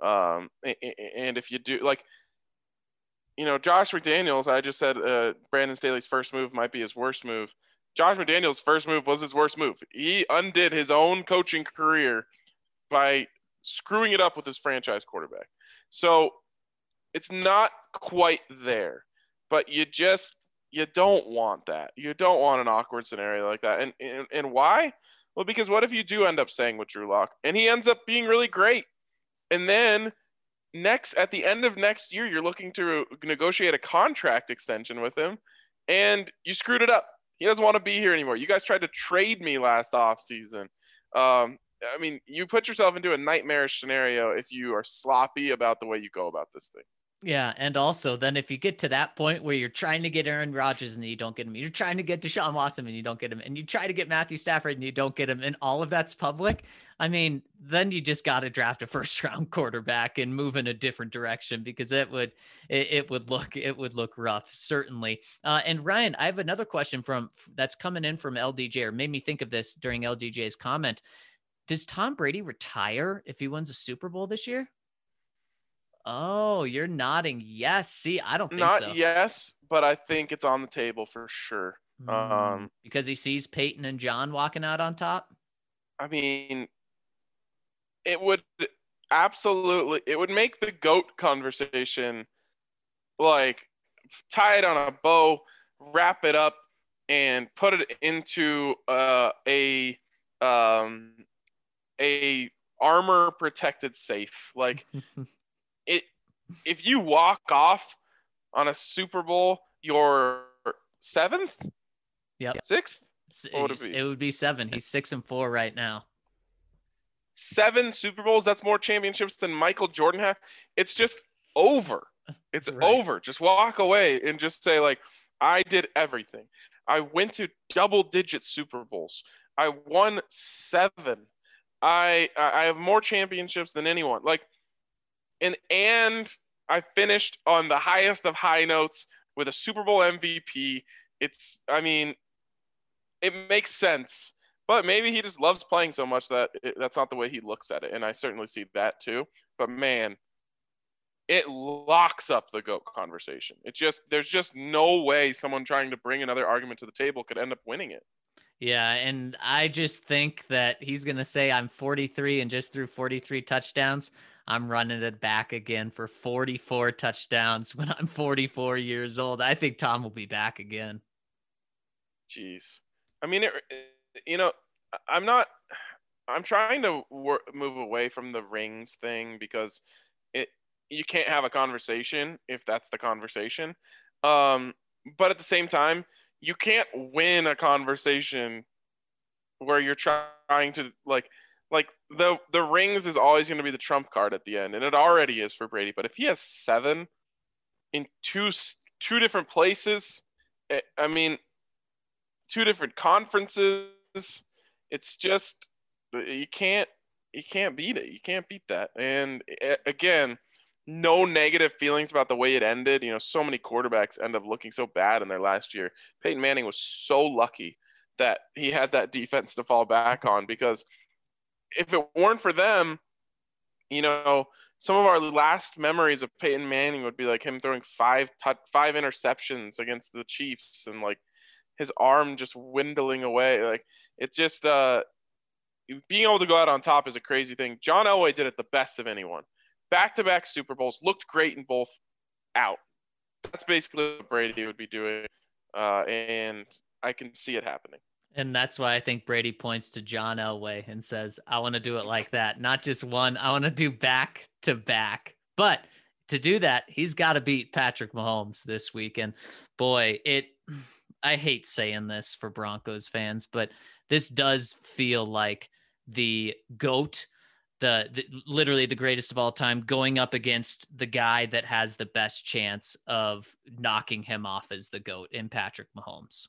And if you do, like, you know, Josh McDaniels, I just said Brandon Staley's first move might be his worst move. Josh McDaniels' first move was his worst move. He undid his own coaching career by screwing it up with his franchise quarterback. So it's not quite there, but you don't want that. You don't want an awkward scenario like that. And why? Well, because what if you do end up staying with Drew Lock and he ends up being really great, and then at the end of next year, you're looking to negotiate a contract extension with him, and you screwed it up. He doesn't want to be here anymore. You guys tried to trade me last offseason. I mean, you put yourself into a nightmarish scenario if you are sloppy about the way you go about this thing. Yeah, and also then if you get to that point where you're trying to get Aaron Rodgers and you don't get him, you're trying to get Deshaun Watson and you don't get him, and you try to get Matthew Stafford and you don't get him, and all of that's public, I mean, then you just got to draft a first-round quarterback and move in a different direction, because it would look rough, certainly. And Ryan, I have another question that's coming in from LDJ, or made me think of this during LDJ's comment. Does Tom Brady retire if he wins a Super Bowl this year? Oh, you're nodding yes. See, I don't think so. Not yes, but I think it's on the table for sure. Because he sees Peyton and John walking out on top? I mean, it would make the GOAT conversation, like, tie it on a bow, wrap it up, and put it into a armor protected safe. Like, if you walk off on a Super Bowl, your 7th, yep, 6th, it would be 7. He's 6-4 right now. 7 Super Bowls. That's more championships than Michael Jordan had. It's just over. It's over. Just walk away and just say, like, I did everything. I went to double-digit Super Bowls. I won 7. I have more championships than anyone. Like, and I finished on the highest of high notes with a Super Bowl MVP. It makes sense, but maybe he just loves playing so much that that's not the way he looks at it. And I certainly see that too. But man, it locks up the GOAT conversation. There's just no way someone trying to bring another argument to the table could end up winning it. Yeah, and I just think that he's going to say, I'm 43 and just threw 43 touchdowns. I'm running it back again for 44 touchdowns when I'm 44 years old. I think Tom will be back again. Jeez. I mean, I'm trying to move away from the rings thing, because you can't have a conversation if that's the conversation. But at the same time, you can't win a conversation where you're trying to like the rings is always going to be the trump card at the end, and it already is for Brady. But if he has 7 in two different places, I mean, 2 different conferences, it's just, you can't beat it. You can't beat that. And again, no negative feelings about the way it ended. So many quarterbacks end up looking so bad in their last year. Peyton Manning was so lucky that he had that defense to fall back on, because if it weren't for them, some of our last memories of Peyton Manning would be like him throwing 5 interceptions against the Chiefs, and like his arm just dwindling away. Like, it's just being able to go out on top is a crazy thing. John Elway did it the best of anyone. Back-to-back Super Bowls, looked great in both, out. That's basically what Brady would be doing, and I can see it happening. And that's why I think Brady points to John Elway and says, I want to do it like that. Not just one. I want to do back-to-back. But to do that, he's got to beat Patrick Mahomes this week. And boy, I hate saying this for Broncos fans, but this does feel like the GOAT, literally the greatest of all time, going up against the guy that has the best chance of knocking him off as the GOAT in Patrick Mahomes.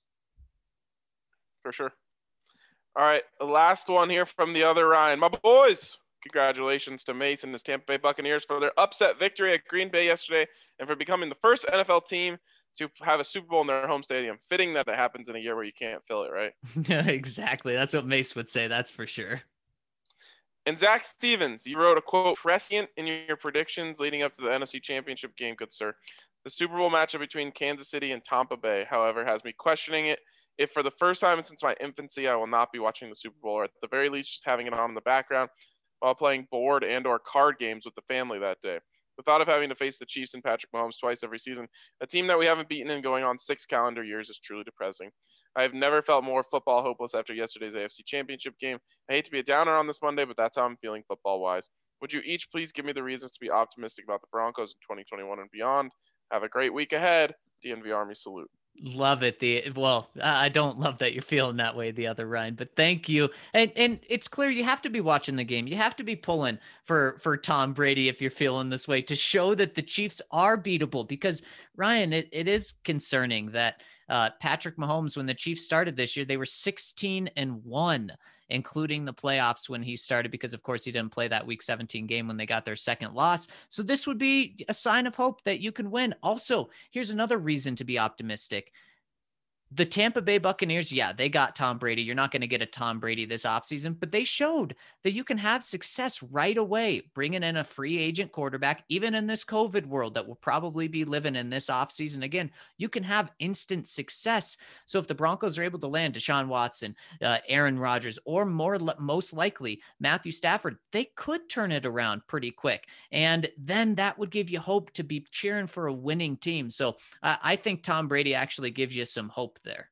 For sure. All right, the last one here from the other Ryan. My boys, congratulations to Mace and his Tampa Bay Buccaneers for their upset victory at Green Bay yesterday, and for becoming the first NFL team to have a Super Bowl in their home stadium. Fitting that it happens in a year where you can't fill it, right? Exactly. That's what Mace would say. That's for sure. And Zach Stevens, you wrote a quote prescient in your predictions leading up to the NFC Championship game, good sir. The Super Bowl matchup between Kansas City and Tampa Bay, however, has me questioning it. If for the first time since my infancy, I will not be watching the Super Bowl, or at the very least just having it on in the background while playing board and or card games with the family that day. The thought of having to face the Chiefs and Patrick Mahomes twice every season, a team that we haven't beaten in going on 6 calendar years, is truly depressing. I have never felt more football hopeless after yesterday's AFC Championship game. I hate to be a downer on this Monday, but that's how I'm feeling football-wise. Would you each please give me the reasons to be optimistic about the Broncos in 2021 and beyond? Have a great week ahead. DNV Army salute. Love it. I don't love that you're feeling that way, the other Ryan, but thank you. And it's clear you have to be watching the game. You have to be pulling for Tom Brady if you're feeling this way, to show that the Chiefs are beatable, because Ryan, it is concerning that Patrick Mahomes, when the Chiefs started this year, they were 16-1, including the playoffs when he started, because of course he didn't play that week 17 game when they got their second loss. So this would be a sign of hope that you can win. Also, here's another reason to be optimistic. The Tampa Bay Buccaneers, yeah, they got Tom Brady. You're not going to get a Tom Brady this offseason, but they showed that you can have success right away, bringing in a free agent quarterback, even in this COVID world that will probably be living in this offseason. Again, you can have instant success. So if the Broncos are able to land Deshaun Watson, Aaron Rodgers, or most likely Matthew Stafford, they could turn it around pretty quick. And then that would give you hope to be cheering for a winning team. So I think Tom Brady actually gives you some hope there.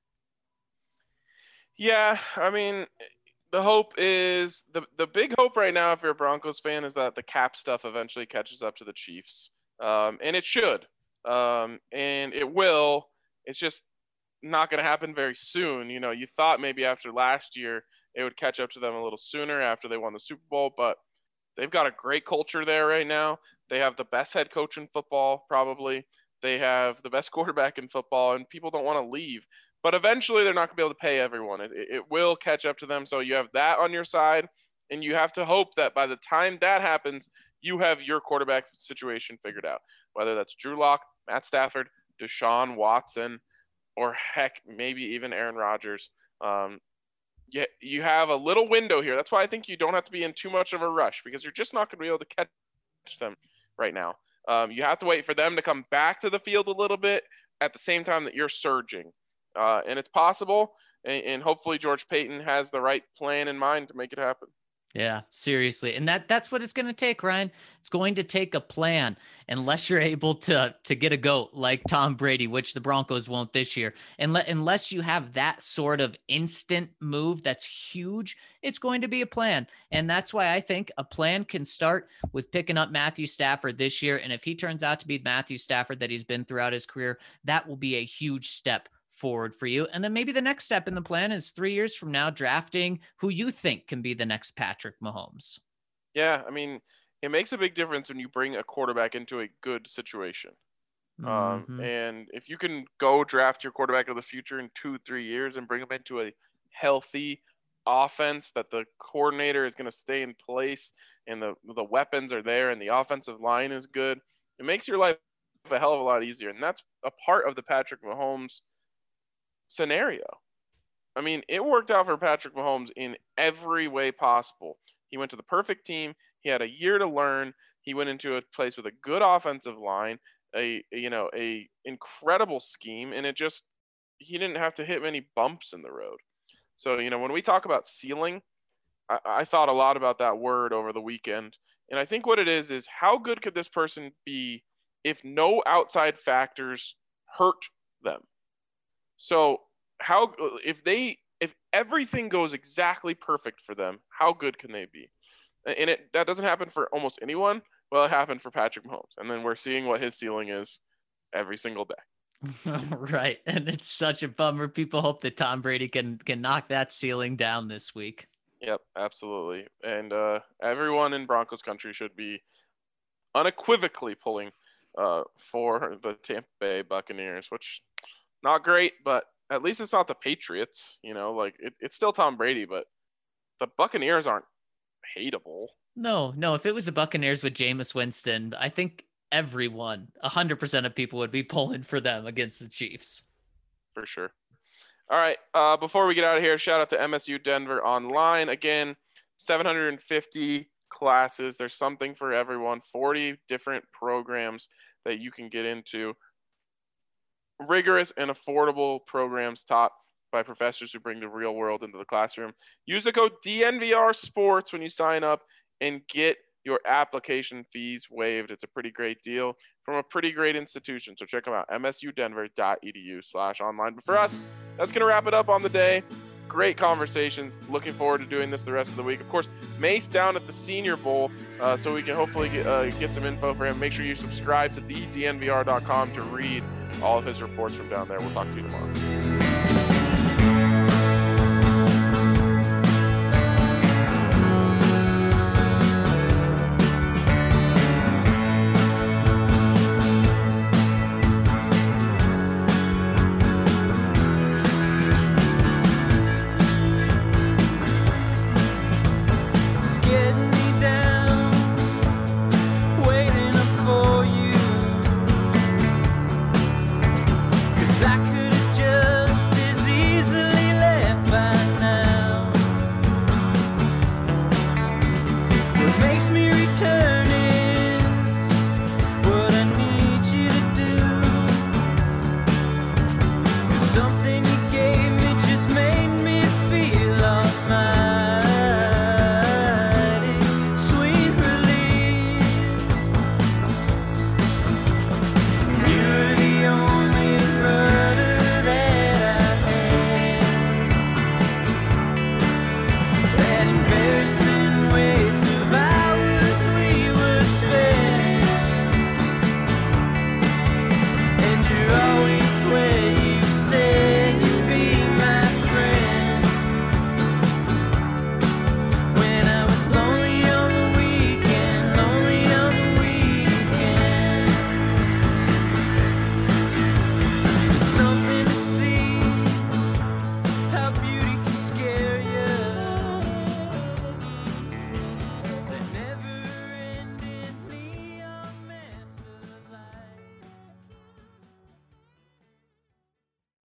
Yeah, I mean, the hope is the big hope right now, if you're a Broncos fan, is that the cap stuff eventually catches up to the Chiefs, and it should, and it will. It's just not going to happen very soon. You know, you thought maybe after last year it would catch up to them a little sooner after they won the Super Bowl, but they've got a great culture there right now. They have the best head coach in football, probably. They have the best quarterback in football, and people don't want to leave. But eventually they're not going to be able to pay everyone. It will catch up to them. So you have that on your side, and you have to hope that by the time that happens, you have your quarterback situation figured out, whether that's Drew Lock, Matt Stafford, Deshaun Watson, or heck, maybe even Aaron Rodgers. You have a little window here. That's why I think you don't have to be in too much of a rush, because you're just not going to be able to catch them right now. You have to wait for them to come back to the field a little bit at the same time that you're surging. And it's possible, and hopefully George Payton has the right plan in mind to make it happen. Yeah, seriously. And that's what it's going to take, Ryan. It's going to take a plan, unless you're able to get a GOAT like Tom Brady, which the Broncos won't this year. And unless you have that sort of instant move that's huge, it's going to be a plan. And that's why I think a plan can start with picking up Matthew Stafford this year. And if he turns out to be Matthew Stafford that he's been throughout his career, that will be a huge step forward for you. And then maybe the next step in the plan is 3 years from now, drafting who you think can be the next Patrick Mahomes. Yeah, I mean, it makes a big difference when you bring a quarterback into a good situation. And if you can go draft your quarterback of the future in 2-3 years and bring him into a healthy offense that the coordinator is going to stay in place and the weapons are there and the offensive line is good, it makes your life a hell of a lot easier. And that's a part of the Patrick Mahomes scenario. I mean, it worked out for Patrick Mahomes in every way possible. He went to the perfect team. He had a year to learn. He went into a place with a good offensive line, a incredible scheme, and he didn't have to hit many bumps in the road. So, when we talk about ceiling, I thought a lot about that word over the weekend. And I think what it is how good could this person be if no outside factors hurt them? So if everything goes exactly perfect for them, how good can they be? And that doesn't happen for almost anyone. Well, it happened for Patrick Mahomes. And then we're seeing what his ceiling is every single day. Right. And it's such a bummer. People hope that Tom Brady can knock that ceiling down this week. Yep, absolutely. And everyone in Broncos country should be unequivocally pulling for the Tampa Bay Buccaneers, which not great, but at least it's not the Patriots. It's still Tom Brady, but the Buccaneers aren't hateable. No. If it was the Buccaneers with Jameis Winston, I think everyone, 100% of people would be pulling for them against the Chiefs. For sure. All right. Before we get out of here, shout out to MSU Denver Online. Again, 750 classes. There's something for everyone. 40 different programs that you can get into. Rigorous and affordable programs taught by professors who bring the real world into the classroom. Use the code DNVR Sports when you sign up and get your application fees waived. It's a pretty great deal from a pretty great institution. So check them out, msudenver.edu/online. But for us, that's going to wrap it up on the day. Great conversations. Looking forward to doing this the rest of the week. Of course, Mace down at the Senior Bowl, so we can hopefully get some info for him. Make sure you subscribe to thednvr.com to read all of his reports from down there. We'll talk to you tomorrow.